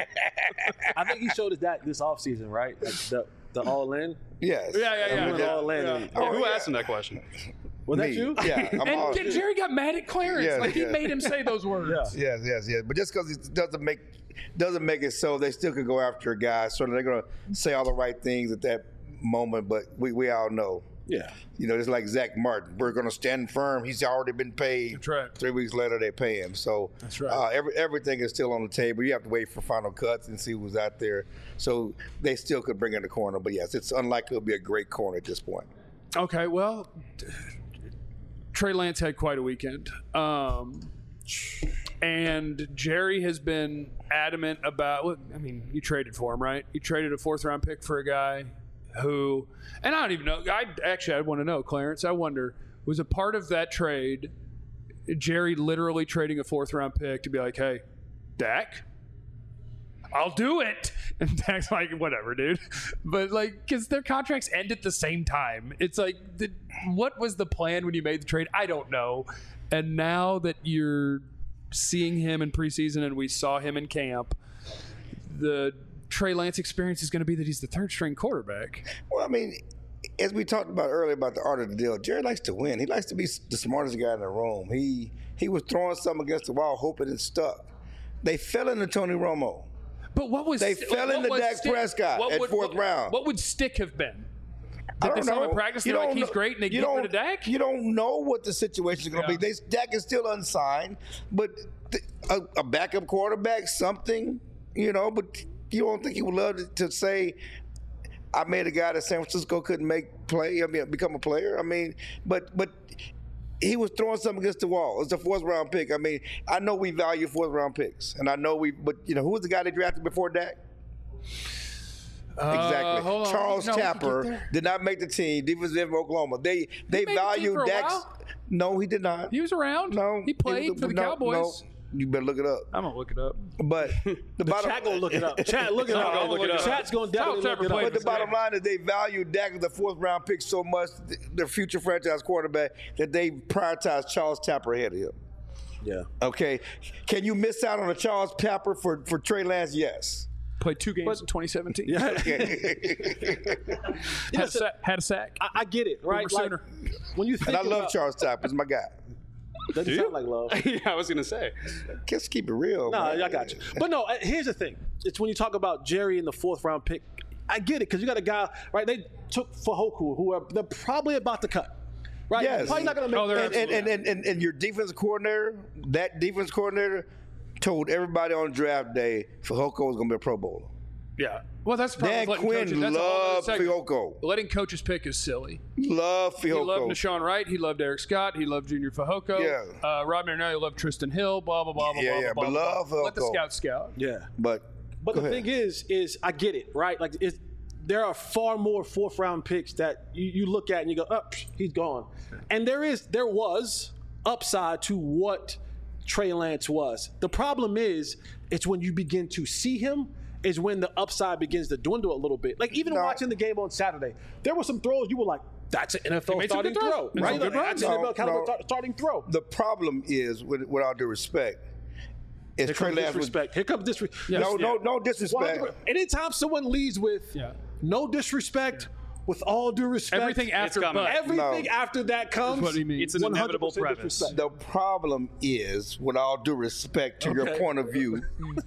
I think he showed us that this offseason, right? Like the the all in. yes. Yeah, yeah, yeah. We went yeah. all in. Yeah. and- Yeah, who yeah. asked him that question? Was that Me. you? Yeah. I'm all, And Jerry got mad at Clarence. Yeah, like, he yeah. made him say those words. Yeah. yes, yes, yes. But just because it doesn't make doesn't make it so, they still could go after a guy. So they're gonna say all the right things at that moment. But we, we all know, Yeah. you know, it's like Zach Martin. We're gonna stand firm. He's already been paid. That's right. Three weeks later, they pay him. So That's right. uh, every, everything is still on the table. You have to wait for final cuts and see who's out there. So they still could bring in the corner. But yes, it's unlikely it'll be a great corner at this point. Okay, well, Trey Lance had quite a weekend. Um, and Jerry has been adamant about, look, I mean, you traded for him, right? You traded a fourth round pick for a guy who, and I don't even know, I actually, I want to know, Clarence, I wonder, was a part of that trade Jerry literally trading a fourth round pick to be like, hey, Dak, I'll do it. And Dak's like, whatever, dude. But like, because their contracts end at the same time. It's like, the, what was the plan when you made the trade? I don't know. And now that you're seeing him in preseason and we saw him in camp, the Trey Lance experience is going to be that he's the third string quarterback. Well, I mean, as we talked about earlier about the art of the deal, Jerry likes to win. He likes to be the smartest guy in the room. He he was throwing something against the wall, hoping it stuck. They fell into Tony Romo. But what was They sti- fell what into was Dak stick- Prescott what at would- fourth what- round. What would stick have been? I Did they don't saw him know. in practice? You They're like, don't he's know- great, and they you get don't- rid of Dak? You don't know what the situation is going to Yeah. be. They, Dak is still unsigned, but th- a, a backup quarterback, something, you know. But you don't think he would love to, to say, "I made a guy that San Francisco couldn't make play. I mean, become a player." I mean, but but. He was throwing something against the wall. It's a fourth round pick. I mean, I know we value fourth round picks, and I know we. But you know, who was the guy they drafted before Dak? Exactly. hold on. Charles No, we can get Tapper there. did not make the team. Defensive end of Oklahoma. They they made the team value for a Dak's. while. No, he did not. He was around. No, He played was- for the no, Cowboys. No, you better look it up. I'm going to look it up. But the, bottom. Chat gonna look it up. Chat, look it No, up. I'll look it up. Chat's gonna definitely Charles look Tapper it played up. But the for bottom line is they value Dak as the fourth round pick so much, th- their future franchise quarterback, that they prioritize Charles Tapper ahead of him. Yeah. Okay, can you miss out on a Charles Tapper for, for Trey Lance? Yes. Played two games But- in twenty seventeen. Yeah. Had, a sack, had a sack. I, I get it, right? Boomer Like, Sooner. when you think And I love about, Charles Top. He's my guy. doesn't sound like love. yeah, I was gonna say. Just keep it real. No, man. I got you. But no, uh, here's the thing. It's when you talk about Jerry in the fourth round pick. I get it because you got a guy, right? They took Fajoku, who are they're probably about to cut, right? Yes. Probably not going to make. Oh, they're And, and, and, and, and, and your defense coordinator, that defense coordinator, told everybody on draft day Fehoko was going to be a Pro Bowler. Yeah. Well, that's the problem. Dan with letting Quinn coaches, that's a whole other loved segment. Fehoko. Letting coaches pick is silly. Love He loved Fehoko. Nashawn Wright. He loved Eric Scott. He loved Junior Fehoko. Yeah. Uh, Rob Marinelli loved Tristan Hill. Blah blah blah blah Yeah, blah yeah, blah. but blah, love blah. Let the Fehoko. scout scout. Yeah. But, But go the ahead. thing is, is I get it, right? Like it's, there are far more fourth round picks that you, you look at and you go, oh, psh, he's gone. And there is, there was upside to what Trey Lance was. The problem is, it's when you begin to see him is when the upside begins to dwindle a little bit. Like even No. watching the game on Saturday, there were some throws you were like, that's an N F L made some starting good throws. throw, Made right? some good Like, that's an runs. N F L No, caliber no. tar- starting throw. the problem is, with, with all due respect, is Here Trey comes Lance was, disrespect. Here comes disrespect. no, no, no disrespect. Anytime someone leads with Yeah. no disrespect, with all due respect, Everything after coming. but. everything No. after that comes. That's what he means. It's an inevitable one hundred percent premise. disrespect. The problem is, with all due respect to your Okay. point of view,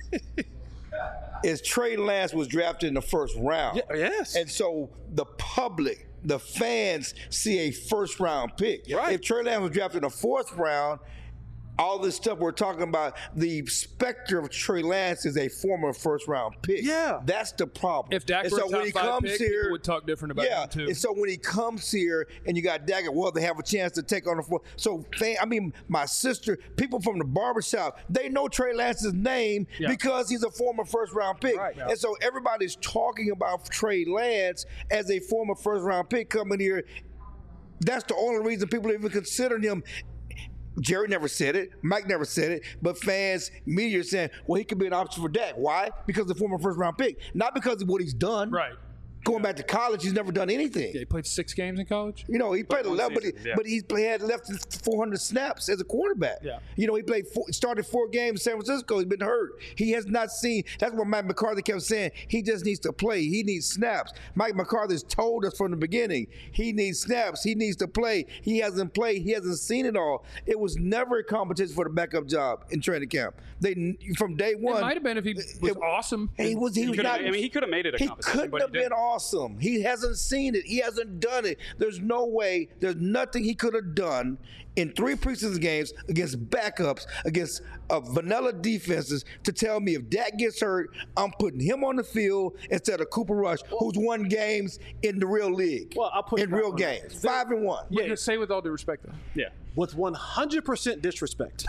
is Trey Lance was drafted in the first round. Yeah, yes. And so the public, the fans, see a first round pick. Right. If Trey Lance was drafted in the fourth round, all this stuff we're talking about, the specter of Trey Lance is a former first round pick. Yeah. That's the problem. If Dak And were so a when top he five comes pick, here, people would talk different about yeah, him too. and so when he comes here and you got Dak, well, they have a chance to take on the fourth. So, fan, I mean, my sister, people from the barbershop, they know Trey Lance's name Yeah. because he's a former first round pick. Right. Yeah. And so everybody's talking about Trey Lance as a former first round pick coming here. That's the only reason people even consider him. Jerry never said it. Mike never said it. But fans, media are saying, well, he could be an option for Dak. Why? Because the former first round pick. Not because of what he's done. Right. Going back to college, he's never done anything. Yeah, he played six games in college. You know, he played one eleven, but, he, season, yeah. but he play- had left four hundred snaps as a quarterback. Yeah. You know, he played four, started four games in San Francisco. He's been hurt. He has not seen. That's what Mike McCarthy kept saying. He just needs to play. He needs snaps. Mike McCarthy's told us from the beginning. He needs snaps. He needs to play. He hasn't played. He hasn't seen it all. It was never a competition for the backup job in training camp. They from day one. It might have been if he was it- awesome. He was. He, was could've- not. I mean, he could have made it a He competition, couldn't but he have been didn't. awesome. He hasn't seen it. He hasn't done it. There's no way. There's nothing he could have done in three preseason games against backups, against uh, vanilla defenses, to tell me if Dak gets hurt, I'm putting him on the field instead of Cooper Rush, who's won games in the real league. Well, I'll put in it back real on games, that. five and one. Yeah. Say with all due respect, though. Yeah. With one hundred percent disrespect.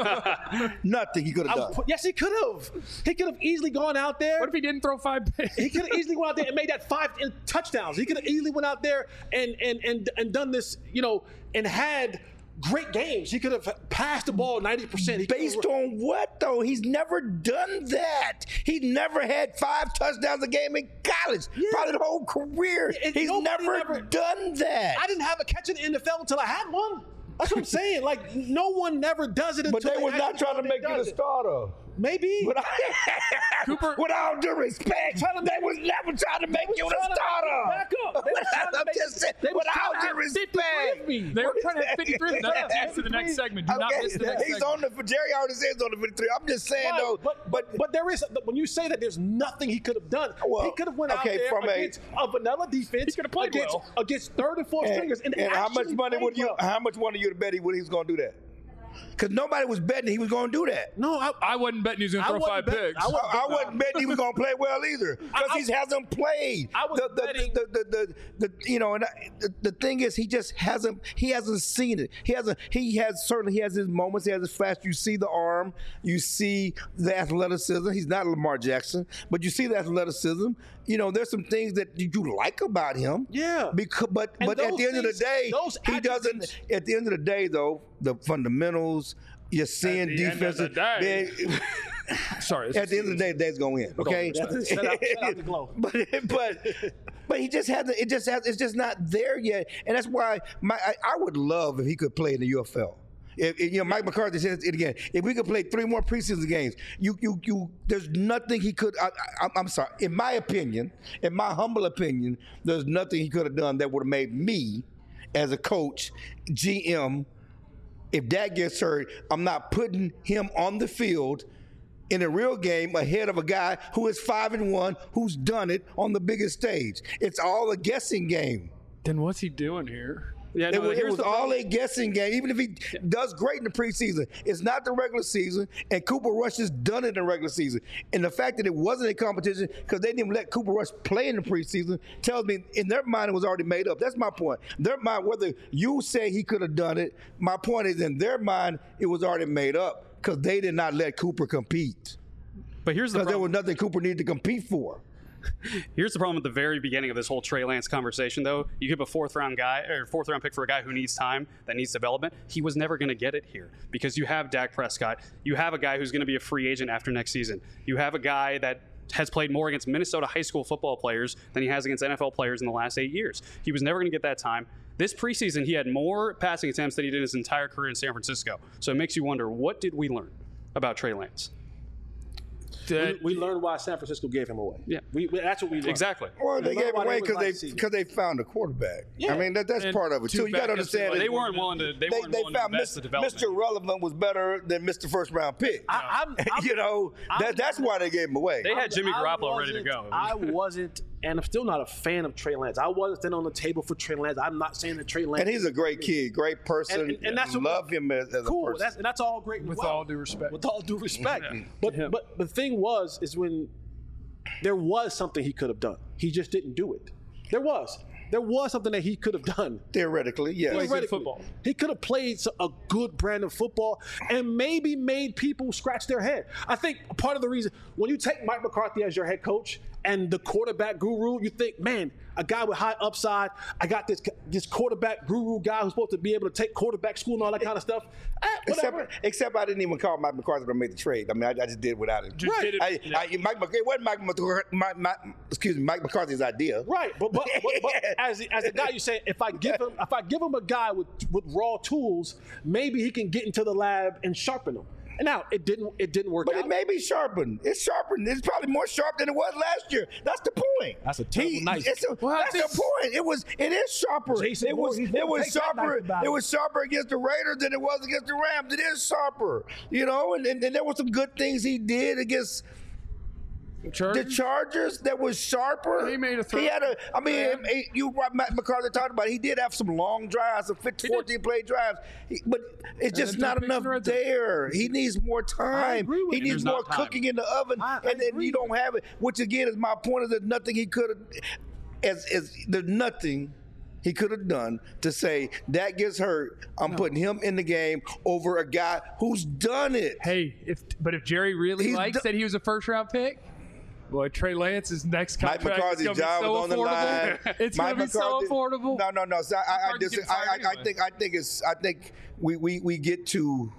Nothing he could have I done. would put- yes, he could have. He could have easily gone out there. What if he didn't throw five picks? He could have easily went out there and made that five in- touchdowns. He could have easily went out there and and and and done this, you know, and had great games. He could have passed the ball ninety percent. Based on what, though? He's never done that. He never had five touchdowns a game in college. Yeah. Probably the whole career. And He's nobody never, never- done that. I didn't have a catch in the N F L until I had one. That's what I'm saying. Like no one never does it until But they was not actually trying to go make and you the does it. starter. Maybe. But Cooper- with all due respect, they was never trying to make you the trying to starter. back up. They was trying to I'm make- just saying, they was with all trying to due have fifty-three of me. respect. They were trying to have fifty-three. That's the to the next segment. Do not Okay, miss the next he's segment. on the. Jerry already says he's on the fifty-three. I'm just saying Right, though. but, but but there is when you say that there's nothing he could have done. Well, he could have went okay, out there from a- against a, vanilla defense. He could have played against, well. against third and fourth And, stringers. And, and how much actually money played would you? well. How much money you to bet he would? He was going to do that? Because nobody was betting he was going to do that. No, I, I wasn't betting he was going I to throw wasn't five bet- picks. I wasn't- I, I wasn't betting he was going to play well either because I- he hasn't played. I was the, the, betting- the, the, the, the, the you know, and I, the, the thing is, he just hasn't. He hasn't seen it. He hasn't. He has certainly. He has his moments. He has his flash. You see the arm. You see the athleticism. He's not Lamar Jackson, but you see the athleticism. You know, there's some things that you like about him. Yeah. Because, but And but at those the end of the things- day, those he doesn't. attributes- At the end of the day, though, the fundamentals. You're seeing the end of the defensive. day. they- Sorry. At the end of the day, the day's gonna win. Okay. Shout out- shout out to Glow. but but but he just hasn't. It just has. It's just not there yet. And that's why my I, I would love if he could play in the U F L. If, if, you know, Mike McCarthy says it again. If we could play three more preseason games, you, you, you. There's nothing he could. I, I, I'm sorry. In my opinion, in my humble opinion, there's nothing he could have done that would have made me, as a coach, G M. If that gets hurt, I'm not putting him on the field in a real game ahead of a guy who is five and one, who's done it on the biggest stage. It's all a guessing game. Then what's he doing here? Yeah, It no, was, it here's was the all problem. a guessing game. Even if he does great in the preseason, it's not the regular season. And Cooper Rush has done it in the regular season. And the fact that it wasn't a competition because they didn't even let Cooper Rush play in the preseason tells me in their mind it was already made up. That's my point. Their mind, whether you say he could have done it, my point is in their mind it was already made up because they did not let Cooper compete. But here's the Because there was problem. nothing Cooper needed to compete for. Here's the problem at the very beginning of this whole Trey Lance conversation, though. You give a fourth round guy or fourth round pick for a guy who needs time, that needs development. He was never going to get it here because you have Dak Prescott. You have a guy who's going to be a free agent after next season. You have a guy that has played more against Minnesota high school football players than he has against N F L players in the last eight years. He was never going to get that time. This preseason, he had more passing attempts than he did his entire career in San Francisco. So it makes you wonder, what did we learn about Trey Lance? That- We, we learned why San Francisco gave him away. Yeah. we, we, that's what we learned. Exactly. Well, they We gave learned why away they because was they like because they found a quarterback. Yeah. I mean that, that's And part of it two too. You got to backups understand. that They it. weren't willing to. They, They, weren't they willing to found invest the development. Mister Relevant was better than Mister First Round pick. I, I'm, I'm, you know, I'm- that, that's why they gave him away. They had Jimmy I Garoppolo ready to wasn't- go. I wasn't, and I'm still not a fan of Trey Lance. I wasn't sitting on the table for Trey Lance. I'm not saying that Trey Lance. and he's a great kid, great person. And- and- and that's what- love him as, as cool. a person. That's and that's all great. and With well. all due respect. With all due respect. But him. but the thing was is when there was something he could have done. He just didn't do it. There was. There was something that he could have done. Theoretically, yes. Play good Theoretically. football. He could have played so- a good brand of football and maybe made people scratch their head. I think part of the reason when you take Mike McCarthy as your head coach and the quarterback guru, you think, man, a guy with high upside. I got this this quarterback guru guy who's supposed to be able to take quarterback school and all that kind of stuff. Eh, whatever. Except, except I didn't even call Mike McCarthy when I made the trade. I mean, I, I just did it without him. Just Right. did it- I, yeah. I, Mike, Mc- it wasn't Mike, McCarthy- Mike, Mike, excuse me, Mike McCarthy's idea. Right, but but, but, but as as a guy, you say if I give him if I give him a guy with with raw tools, maybe he can get into the lab and sharpen them. And now it didn't it didn't work But out. it may be sharpened. It's sharpened. It's probably more sharp than it was last year. That's the point. That's a terrible knife. It's a, Well, that's this- the point. It was. It is sharper. Jason it was. Moore, he's It gonna was take that sharper. knife about It it. was sharper against the Raiders than it was against the Rams. It is sharper. You know, and, and, and there were some good things he did against the Chargers? Chargers that was sharper. He made a throw. He had a. I mean, Yeah. he- you Matt McCarthy talked about it. He did have some long drives, some fifteen, did. fourteen play drives, He- but it's just then not two picks enough in the red zone. there. He needs more time. agree with He you. needs There's more not time. cooking in the oven, I- I and then agree. you don't have it. Which again is my point: is that nothing he could have. As as there's nothing he could have done to say that gets hurt. I'm putting him in the game over a guy who's done it. Hey, if but if Jerry really He's likes do- that he was a first round pick, boy, Trey Lance's next Mike contract McCarthy's is going to be job so was on the affordable. line. It's Mike going to be so McCarthy- affordable. No, no, no. So I, I, I, McCarthy dis- gets I, fired I, I anyway. think I think it's I think we we, we get to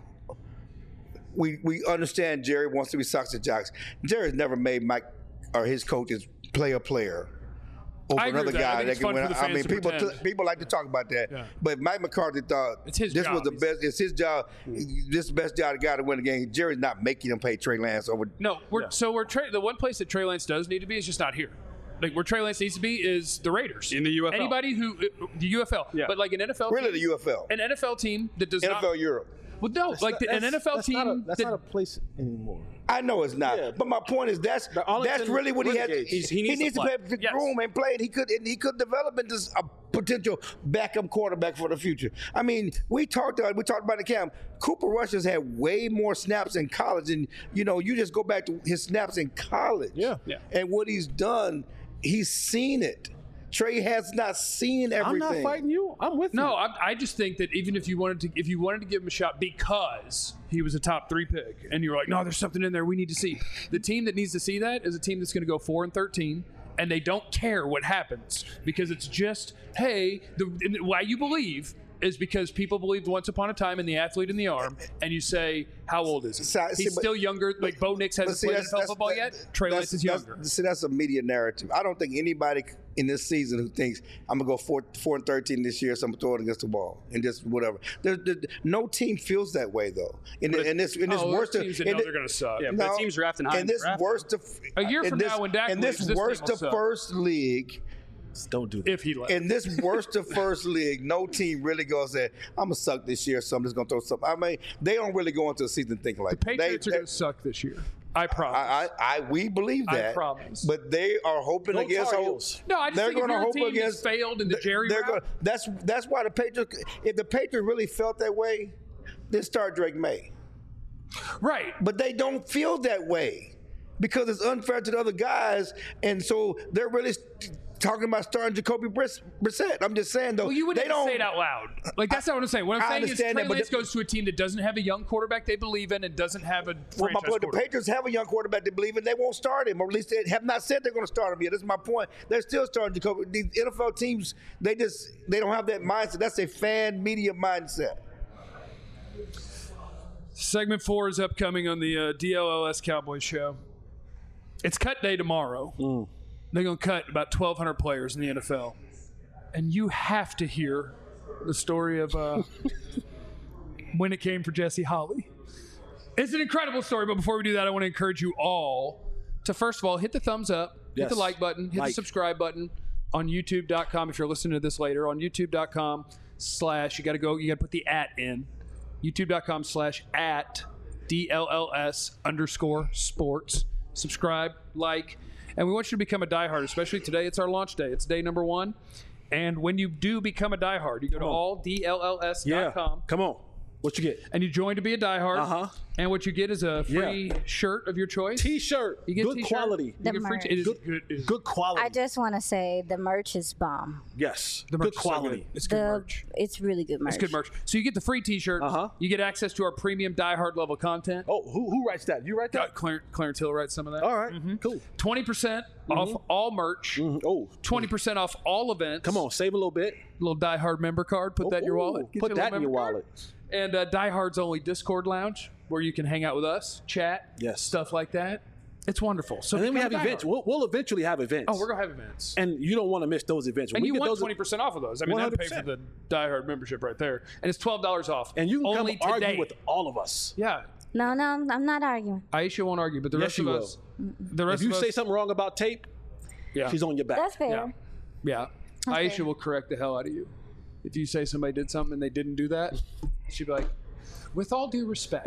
we we understand Jerry wants to be Sox Jocks. Jerry's never made Mike or his coaches play a player over I agree another with that. I guy think that it's can fun win. for the I fans mean, to people pretend. t- people like to talk about that. Yeah. But Mike McCarthy thought It's his this job. was the He's- best. It's his job. This is the best job to guy to win the game. Jerry's not making him pay Trey Lance over. No, we're so we're Trey, the one place that Trey Lance does need to be is just not here. Like where Trey Lance needs to be is the Raiders In the U F L. Anybody who the U F L, Yeah. but like an N F L, Really, team, the U F L, an N F L team that does N F L not. Europe. Well, no, like the, an N F L that's team Not a, that's that, not a place anymore. I know it's not, Yeah. but my point is that's The Arlington that's really what he had. Renegades. He, He's- he needs to to play. play the Yes. room and play, and he could and he could develop into a potential backup quarterback for the future. I mean, we talked about we talked about the camp. Cooper Rush has had way more snaps in college, and you know, you just go back to his snaps in college, Yeah. Yeah. and what he's done. He's seen it. Trey has not seen everything. I'm not fighting you. I'm with you. No, I, I just think that even if you wanted to, if you wanted to give him a shot because he was a top three pick, and you're like, no, there's something in there we need to see. The team that needs to see that is a team that's going to go four and thirteen, and they don't care what happens because it's just, hey, the and why you believe is because people believed once upon a time in the athlete in the arm, and you say, how old is he? So- see, He's but- still younger. Like Bo Nix But hasn't see, played N that's- F L that's- football that- yet. Trey that's- Lance is that's- younger. See, that's a media narrative. I don't think anybody in this season who thinks I'm gonna go four, four and thirteen this year, so I'm gonna throw it against the wall and just whatever. There, there, no team feels that way though. In, in this, in this Oh, worst, there's of, teams that in know the- they're going to suck. Yeah, but the team's drafting high in in the this draft. worst of A year in from this, now when Dak in this leaves, this worst team will of suck. first league. Don't do that. If he left. In this worst of first league, no team really goes there. I'm gonna suck this year, so I'm just gonna throw something. I mean, they don't really go into the season thinking like Patriots they, are going to suck this year. I promise. I, I, I, we believe I that. promise. But they are hoping Go against Tar hope. Heels. No, I just they're think if gonna your hope team has against failed in the Jerry they're route- gonna- that's that's why the Patriots. If the Patriots really felt that way, then start Drake May. right. But they don't feel that way because it's unfair to the other guys, and so they're really st- talking about starting Jacoby Briss- Brissett. I'm just saying though, Well, you wouldn't they don't say it out loud. Like, that's not what I'm saying. What I'm I saying is understand Trey that, but Lance the- goes to a team that doesn't have a young quarterback they believe in and doesn't have a Well, my franchise point, the quarterback. Patriots have a young quarterback they believe in. They won't start him, or at least they have not said they're going to start him yet. This is my point. They're still starting Jacoby. These N F L teams, they just they don't have that mindset. That's a fan media mindset. Segment four is upcoming on the uh, D L L S Cowboys show. It's cut day tomorrow. Mm. They're going to cut about twelve hundred players in the N F L. And you have to hear the story of uh, when it came for Jesse Holley. It's an incredible story, but before we do that, I want to encourage you all to, first of all, hit the thumbs up, hit Yes. the like button, hit Like. the subscribe button on YouTube dot com if you're listening to this later. On YouTube dot com slash, you got to go, you got to put the at in. YouTube dot com slash at D L L S underscore sports. Subscribe, like, and we want you to become a diehard, especially today. It's our launch day. It's day number one. And when you do become a diehard, you go to on. all D L L S dot Yeah. com. Come on. What you get? And you join to be a diehard. Uh-huh. And what you get is a free Yeah. shirt of your choice. T-shirt. You get Good t-shirt. quality. You The get free merch. t- it is Good, good. it is- good quality. I just want to say the merch is bomb. yes. the merch Good is so quality. good. It's good The merch. it's really good merch. It's good merch. So you get the free T-shirt. Uh-huh. You get access to our premium diehard level content. Oh, who who writes that? You write Uh, that? Clarence, Clarence Hill writes some of that. All right. Cool. twenty percent off all merch. Mhm. Oh, twenty percent off all events. come on. Save a little bit. Little diehard member card. Put that in your Ooh, wallet. Get put you a that little in your member wallet. card. And uh, Diehard's only Discord lounge where you can hang out with us, chat, Yes. stuff like that. It's wonderful. So And then we have become a events. diehard. We'll, we'll eventually have events. Oh, we're gonna have events. and you don't want to miss those events. When And we you get want those, twenty percent off of those. I mean, that'd pay for one the hundred Diehard membership right there. And it's twelve dollars off. and you can only come today. argue with all of us. Yeah. No, no, I'm not arguing. Aisha won't argue, but the Yes, rest she of will. us. The rest If you of say us, something wrong about tape, yeah. she's on your back. That's fair. Yeah. Yeah. Aisha fair. will correct the hell out of you. If you say somebody did something and they didn't do that, she'd be like, with all due respect,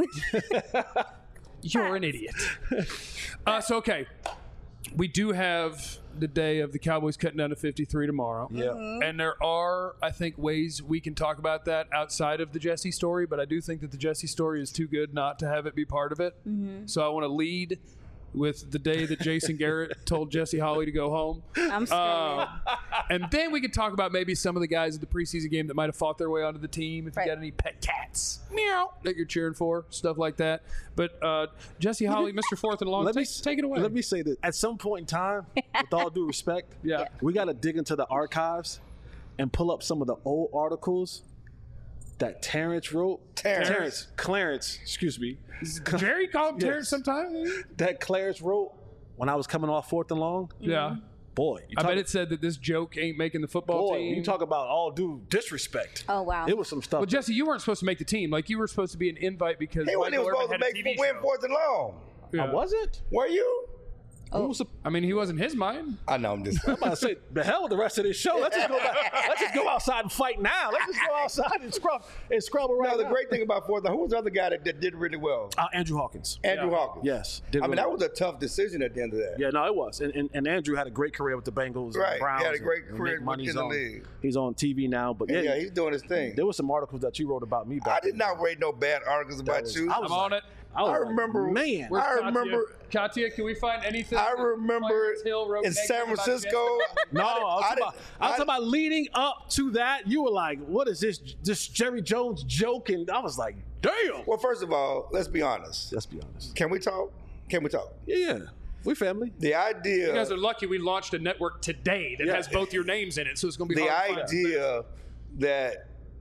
you're an idiot. Uh, so, okay. We do have the day of the Cowboys cutting down to fifty-three tomorrow. Yeah. And there are, I think, ways we can talk about that outside of the Jesse story, but I do think that the Jesse story is too good not to have it be part of it. So I want to lead with the day that Jason Garrett told Jesse Holley to go home. I'm scared. Um, and then we could talk about maybe some of the guys at the preseason game that might have fought their way onto the team. If Right. you got any pet cats, meow, that you're cheering for, stuff like that. But uh, Jesse Holley, Mister Fourth and Long, Let me take, take it away. Let me say that at some point in time, with all due respect, Yeah. we got to dig into the archives and pull up some of the old articles that Terrence wrote. Terrence. Terrence, Clarence, excuse me. Jerry called him Yes. Terrence sometimes. That Clarence wrote when I was coming off Fourth and Long. Yeah. Boy, you I talk, bet it said that this joke ain't making the football boy, team. you talk about all due disrespect. Oh, wow. It was some stuff. well, Jesse, you weren't supposed to make the team. Like, you were supposed to be an invite because He wasn't Michael even supposed Irvin to had a make T V win show. fourth and long. Yeah. I wasn't. Were you? Who was the, I mean, he wasn't his mind. I know. I'm just. I'm about to say, the hell with the rest of this show. Let's just go back. Let's just go outside and fight now. Let's just go outside and scrub and scrub around. No, the now. great thing about fourth. Who was the other guy that, that did really well? Uh, Andrew Hawkins. Andrew Yeah. Hawkins. Yes. did I mean, really that well. was a tough decision at the end of that. Yeah, no, it was. And, and, and Andrew had a great career with the Bengals Right. and He Browns. had a great and- career and make money. in He's the on, league. He's on T V now. But yeah, Yeah, he's doing his thing. there were some articles that you wrote about me I back did not read no bad articles about was- you. I I'm was on like- it. I, was I like, remember- man. Where's I Katia? remember- Katia, can we find anything? I that remember Clarence Hill wrote in San negative about Francisco. Jesse? No, I was, I talking didn't- about, I was I- talking about leading up to that. You were like, "What is this? This Jerry Jones joke?" And I was like, "Damn." Well, first of all, let's be honest. Let's be honest. Can we talk? Can we talk? Yeah, we family. The idea. You guys are lucky we launched a network today that Yeah. has both your names in it, so it's going to be the hard to find. idea that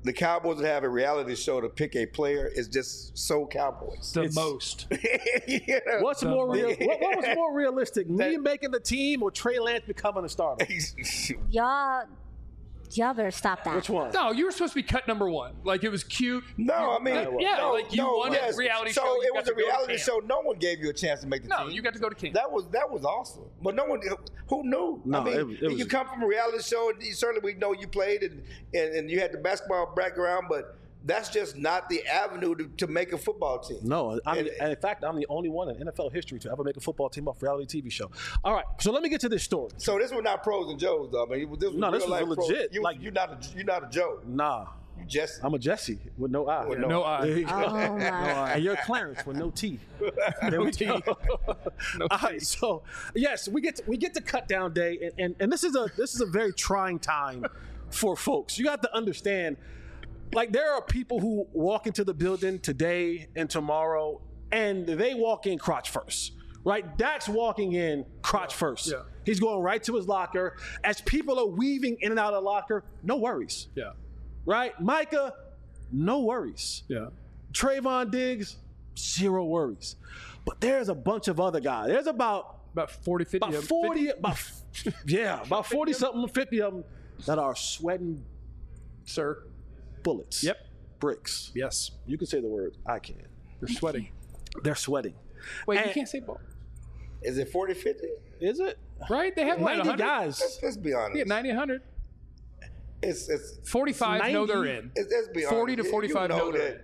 the Cowboys would have a reality show to pick a player is just so Cowboys. The most. You know? What's more real? What, what was more realistic? Me making the team or Trey Lance becoming a starter? Y'all, y'all better stop that. Which one? No, you were supposed to be cut number one. Like, it was cute. No, I mean, Yeah, no, like, you no, won a yes. reality so show, you it got was a to go to reality camp. show. No one gave you a chance to make the No, team. you got to go to camp. That was that was awesome. But no one, who knew? No, I mean, it- it was- you come from a reality show, and you- certainly we know you played and, and, and you had the basketball background, but that's just not the avenue to, to make a football team. No, I'm, And- and in fact, I'm the only one in N F L history to ever make a football team off a reality T V show. All right, so let me get to this story. So this was not pros and Joes, though. I mean, this was No, this real was life pros. legit, You, like- you're not a you're not a Joe. Nah, You Jesse. I'm a Jesse with no I. With No eye. There you go. Oh, No my. eye. And you're Clarence with no T. There we go. All right, so yes, we get to, we get to cut down day, and, and and this is a this is a very trying time for folks. You got to understand, like there are people who walk into the building today and tomorrow, and they walk in crotch first. Right, Dak's walking in crotch first. Yeah. He's going right to his locker. As people are weaving in and out of the locker, no worries. Yeah. Right, Micah, no worries. Yeah. Trayvon Diggs, zero worries. But there's a bunch of other guys. There's about About forty, fifty. about of- forty, fifty, about yeah, about forty something, fifty of them that are sweating sir. bullets. Yep. Bricks. Yes. You can say the word. I can. You're sweating. They're sweating. Wait, you And- can't say ball. Is it forty fifty? Is it? Right? They have what, ninety one hundred? guys. Let's, let's be honest. Yeah, ninety, one hundred. It's it's forty-five know they're ninety. in. It's, let's be forty honest. to forty-five You know know they're in. that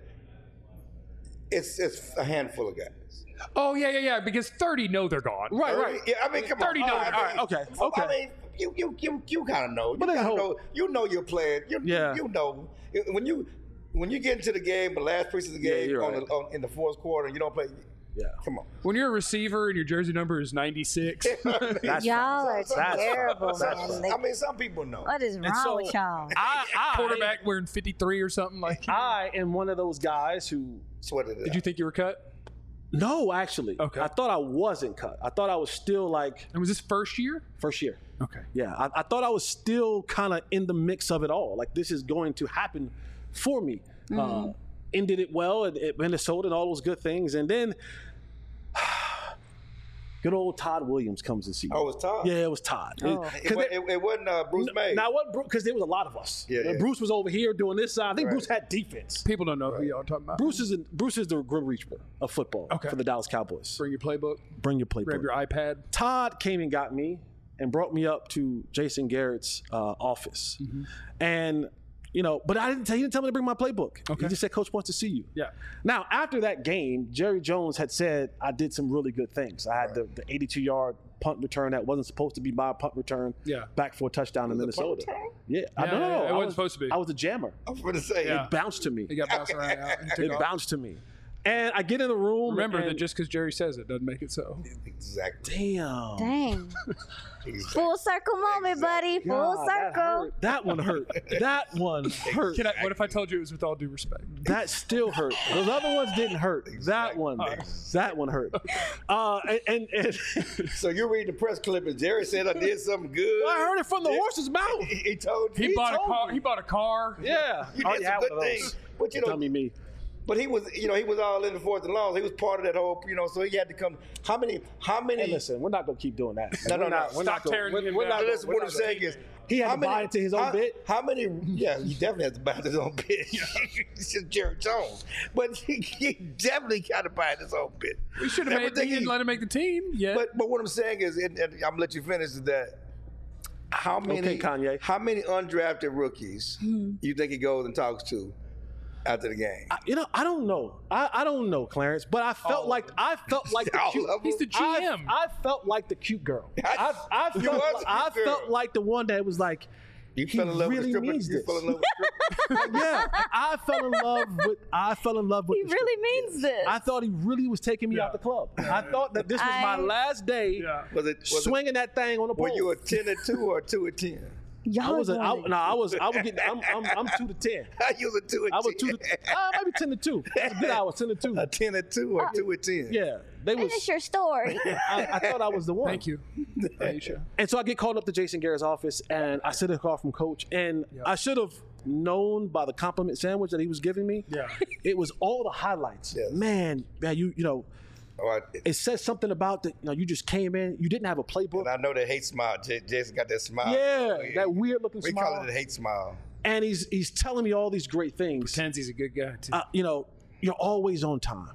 it's it's a handful of guys. Oh, yeah, yeah, yeah, because thirty know they're gone. Right, right. Yeah, I mean, come thirty on. know I they're- mean, all right, okay, well, okay. I mean, you you you you kind of know. You But they kind of hope. know. You know you're playing. You, Yeah. you know when you when you get into the game, the last piece of the Yeah, game you're on right. the, on, in the fourth quarter, you don't play. Yeah. Come on. When you're a receiver and your jersey number is ninety-six, That's Y'all are fine. That's terrible, fine. man. I Like, mean, some people know. what is wrong so- with y'all? I, I, quarterback wearing fifty-three or something like. I am one of those guys who. Sweated it Did you think you were cut? No, actually. Okay. I thought I wasn't cut. I thought I was still like And was this first year? first year. Okay. Yeah, I, I thought I was still kind of in the mix of it all. Like this is going to happen for me. Uh, ended it well at, at Minnesota and all those good things, and then good old Todd Williams comes and sees. Oh, it was Todd. Yeah, it was Todd. Oh. It- It, 'cause wa- it- it, it wasn't uh, Bruce May. now what? Because there was a lot of us. Yeah, And yeah. Bruce was over here doing this side. I think Right. Bruce had defense. People don't know who y'all are talking about. Bruce is Bruce is the Grim Reaper of football Okay. for the Dallas Cowboys. Bring your playbook. Bring your playbook. Grab your iPad. Todd came and got me and brought me up to Jason Garrett's uh, office. Mm-hmm. And, you know, but I didn't tell, he didn't tell me to bring my playbook. Okay. He just said, Coach wants to see you. Yeah. Now, after that game, Jerry Jones had said I did some really good things. I had the, the eighty-two yard punt return that wasn't supposed to be my punt return. Yeah. Back for a touchdown in Was it a punt Minnesota. return? Yeah. I, Yeah, no, no, yeah, no. it I wasn't was, supposed to be. I was a jammer. I was going to say. Yeah. It bounced to me. He got bounced around out and took It off. bounced to me. And I get in the room. Remember and, that just because Jerry says it doesn't make it so. Exactly. Damn. Dang. exactly. Full circle moment, buddy. Full God, that circle. hurt. That one hurt. That one hurt. Can I, what if I told you it was with all due respect? That still hurt. Those other ones didn't hurt. That one, that one hurt. Uh, and, and, and So you read the press clip and Jerry said I did something good. I heard it from the Yeah. horse's mouth. He, he told you. He, bought a told car. me. He bought a car. Yeah, You I did already some had good one of those. things. But you know, Dummy me. but he was, you know, he was all in the fourth and long. He was part of that whole, you know, so he had to come. How many? How many? Hey, listen, we're not gonna keep doing that. No, we're no, no. not, We're Stop not gonna, tearing we're, him we're down. not gonna, Listen, we're what I'm not gonna- saying is, He had how to many- buy into his own how, bit. How many? Yeah, he definitely has to buy into his own bit. It's just Jerry Jones, but he, he definitely got to buy into his own bit. We should have made. Everything He didn't he- let him make the team. Yeah. But but what I'm saying is, and, and I'm gonna let you finish, is that how many Okay, Kanye. how many undrafted rookies Hmm. you think he goes and talks to after the game? I- You know, I don't know. I, I don't know, Clarence, but I felt Oh. like I felt like the All cute. of them? He's the G M. I, I felt like the cute girl. I, I You felt, was like, the I cute girl. felt like the one that was like, You he fell in love really with the stripper. means You this. fell in love with the stripper. yeah, I fell in love with. I fell in love with. He the really means this. I thought he really was taking me Yeah. out the club. I thought that this was my I- last day yeah. Was it? Was swinging that thing on the It, were pole. you a ten and two or a two and ten? Y'all I was a, I, going- no, I was I was getting I'm I'm, I'm two to ten. you was a two and I was ten. two to uh, maybe ten to two. That's a good hour, ten to two. A ten and two or two and ten. Yeah, they was. Finish your story. I, I thought I was the one. Thank you, Aisha. And so I get called up to Jason Garrett's office, and I sit in a call from Coach, and I should have known by the compliment sandwich that he was giving me. Yeah. It was all the highlights. Yes. Man, man, you you know, All right. it says something about that. You know, you just came in. You didn't have a playbook. And I know that hate smile. J- Jason got that smile. Yeah, We- that weird looking We smile. call it a hate smile. And he's he's telling me all these great things. Pretends he's a good guy too. Uh, you know, you're always on time.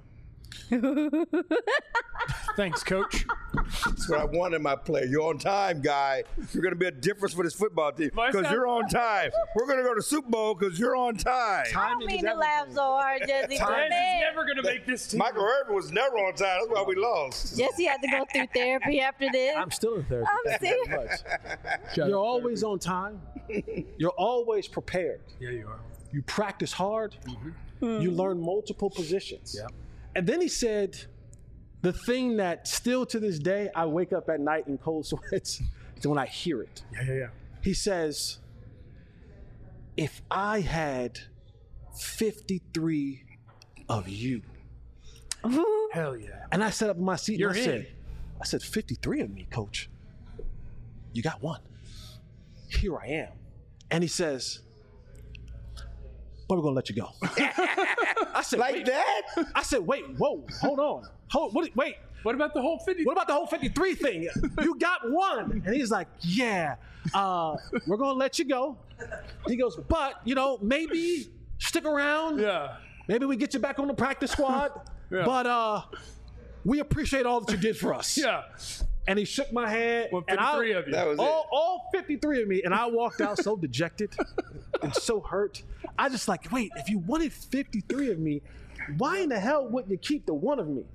Thanks, Coach. That's what I want in my player. You're on time, guy. You're going to be a difference for this football team Why is because that- you're on time. We're going to go to Super Bowl because you're on time. I don't mean to laugh so hard, Jesse. but Jesse is man, never going to make this team. Michael Irvin was never on time. That's why we lost. Jesse had to go through therapy after this. I'm still in therapy. I'm serious. Much. You're always on time. You're always prepared. Yeah, you are. You practice hard. You learn multiple positions. Yeah. And then he said, the thing that still to this day, I wake up at night in cold sweats is when I hear it. Yeah, yeah, yeah. He says, if I had fifty-three of you. Hell yeah. And I sat up in my seat You're and I in. said, I said, fifty-three of me, coach. You got one. Here I am. And he says, but we're gonna let you go. I said, Like wait. that? I said, wait, whoa, hold on. Hold, what, wait, What about the whole fifty? what about the whole fifty-three thing? You got one. And he's like, yeah, uh, we're gonna let you go. He goes, but, you know, maybe stick around. Yeah. Maybe we get you back on the practice squad. Yeah. But uh, we appreciate all that you did for us. Yeah. And he shook my hand. Well, and I, fifty-three of you. That was all, it. all fifty-three of me. And I walked out so dejected and so hurt. I just like, wait, if you wanted fifty-three of me, why in the hell wouldn't you keep the one of me?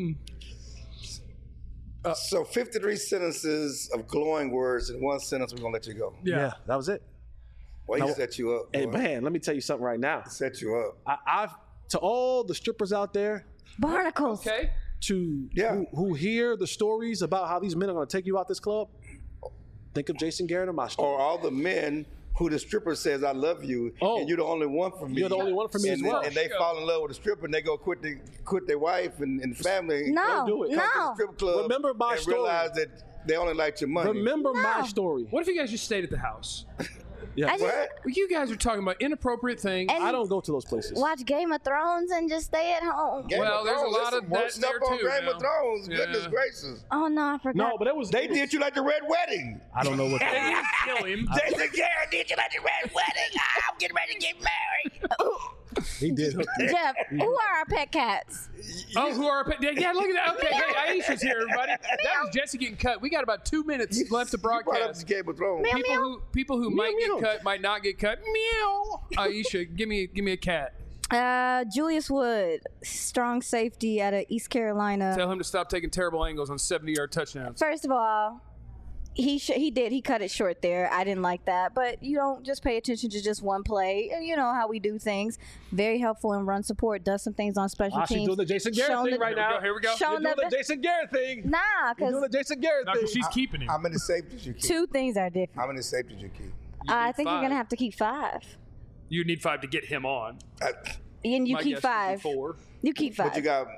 So fifty-three sentences of glowing words in one sentence, we're going to let you go. Yeah. that was it. Well, he No. set you up. Hey, boy. man, let me tell you something right now. Set you up. I, I've, to all the strippers out there, Barnacles. Okay. to Yeah. who, who hear the stories about how these men are going to take you out this club, think of Jason Garrett and my story. Or all the men who the stripper says, I love you, Oh. and you're the only one for me. You're the only one for me and, as well. And they Yeah. fall in love with the stripper and they go quit, the, quit their wife and, and family. No, do it. Come to the no. strip club Remember my and story. realize that they only like your money. Remember my No. story. What if you guys just stayed at the house? Yeah. I just What? Well, you guys are talking about inappropriate things. And- I don't go to those places. watch Game of Thrones and just stay at home. Game Well, of there's a Thrones, lot there's of some worse that stuff there on too Game now. of Thrones. Yeah. Goodness gracious. Oh no, I forgot. No, but it was. They it was- did you like the Red Wedding. I don't know what. That Kill him. Jason Garrett did you like the Red Wedding. I'm getting ready to get married. he did. Jeff, who are our pet cats? Oh, who are our pet? Yeah, look at that. Okay, hey, Aisha's here, everybody. That was Jesse getting cut. We got about two minutes left to You brought up broadcast. the Game of Thrones. Meow, People meow. who people who might meow. get cut might not get cut. Meow. Aisha, give me give me a cat. Uh, Julius Wood, strong safety out of East Carolina. Tell him to stop taking terrible angles on seventy-yard touchdowns. First of all, he sh- he did he cut it short there. I didn't like that, but you don't just pay attention to just one play. You know how we do things. Very helpful in run support. Does some things on special Ah, she's teams. doing the Jason Garrett Shown thing the- right Here we now. go. Here we go. Shown You're doing the the Jason Garrett thing. Nah, You're doing the because Jason Garrett Not thing. 'cause she's keeping him. How many safeties you keep? two things are different. How many safeties you keep? I think you're five. gonna have to keep five, You need five to get him on. I, and you My keep guess would be five. Four. You keep five. but you got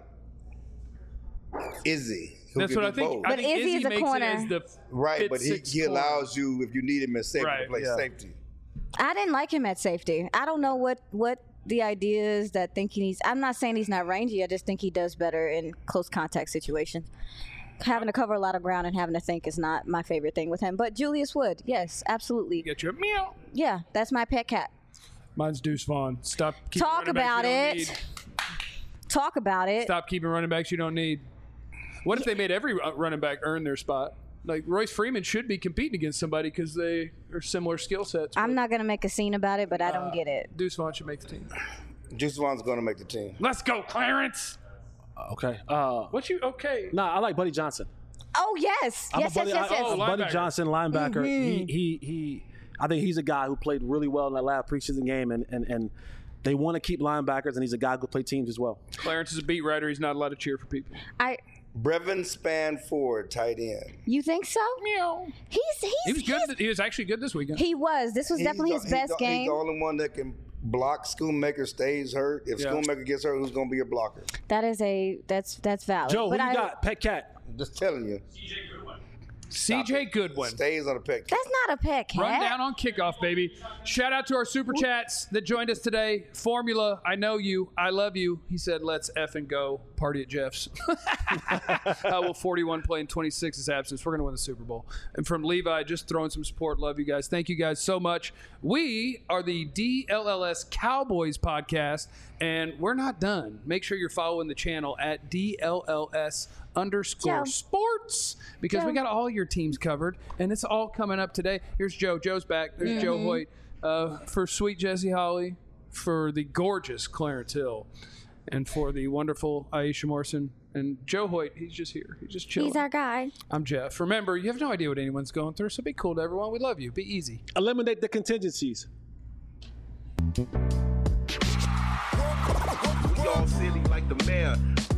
Izzy. who That's can what I do think. both. I But think Izzy is a makes corner. It as the Right, fifth, but he, sixth he corner. allows you, if you need him as safety, Right, to play yeah. safety. I didn't like him at safety. I don't know what what the idea is that thinking he's. I'm not saying he's not rangy. I just think he does better in close contact situations. Having to cover a lot of ground and having to think is not my favorite thing with him. But Julius Wood, yes, absolutely. Get you a meow. Yeah, that's my pet cat. Mine's Deuce Vaughn. Stop. keeping Talk running backs about you don't it. need. Talk about it. Stop keeping running backs you don't need. What if they made every uh, running back earn their spot? Like Royce Freeman should be competing against somebody because they are similar skill sets. I'm but, not gonna make a scene about it, but I don't get it. Deuce Vaughn should make the team. Juice Vaughn's going to make the team. Let's go, Clarence. Okay. Uh, What you okay? nah, I like Buddy Johnson. Oh yes, I'm yes, a Buddy, yes, yes, yes. I- Oh, Buddy linebacker. Johnson, linebacker. He, he, he. I think he's a guy who played really well in that last preseason game, and and, and they want to keep linebackers, and he's a guy who could play teams as well. Clarence is a beat writer. He's not allowed to cheer for people. I. Brevin Spanford, tight end. You think so? Meow. He's he's He was he's- good. He was actually good this weekend. He was. This was He's definitely the- his he's best the, game. He's the only one that can block. Schoonmaker stays hurt. If Yeah. Schoonmaker gets hurt, who's going to be your blocker? That is a that's that's valid. Joe, but who you I, got? Pet cat. I'm just telling you. C J Goodwin. Stays on the pet. That's not a pet cat. Run down on kickoff, baby. Shout out to our super chats that joined us today. Formula, I know you. I love you. He said, let's effing go party at Jeff's. uh, well, forty-one playing twenty-six is absence. We're going to win the Super Bowl. And from Levi, just throwing some support. Love you guys. Thank you guys so much. We are the D L L S Cowboys podcast, and we're not done. Make sure you're following the channel at D L L S underscore Joe. sports because Joe. we got all your teams covered, and it's all coming up today. Here's Joe. Joe's back. There's Joe Hoyt uh, for sweet Jesse Holly, for the gorgeous Clarence Hill, and for the wonderful Aisha Morrison. And Joe Hoyt, he's just here. He's just chilling. He's our guy. I'm Jeff. Remember, you have no idea what anyone's going through, so be cool to everyone. We love you. Be easy. Eliminate the contingencies. We all silly like the mayor.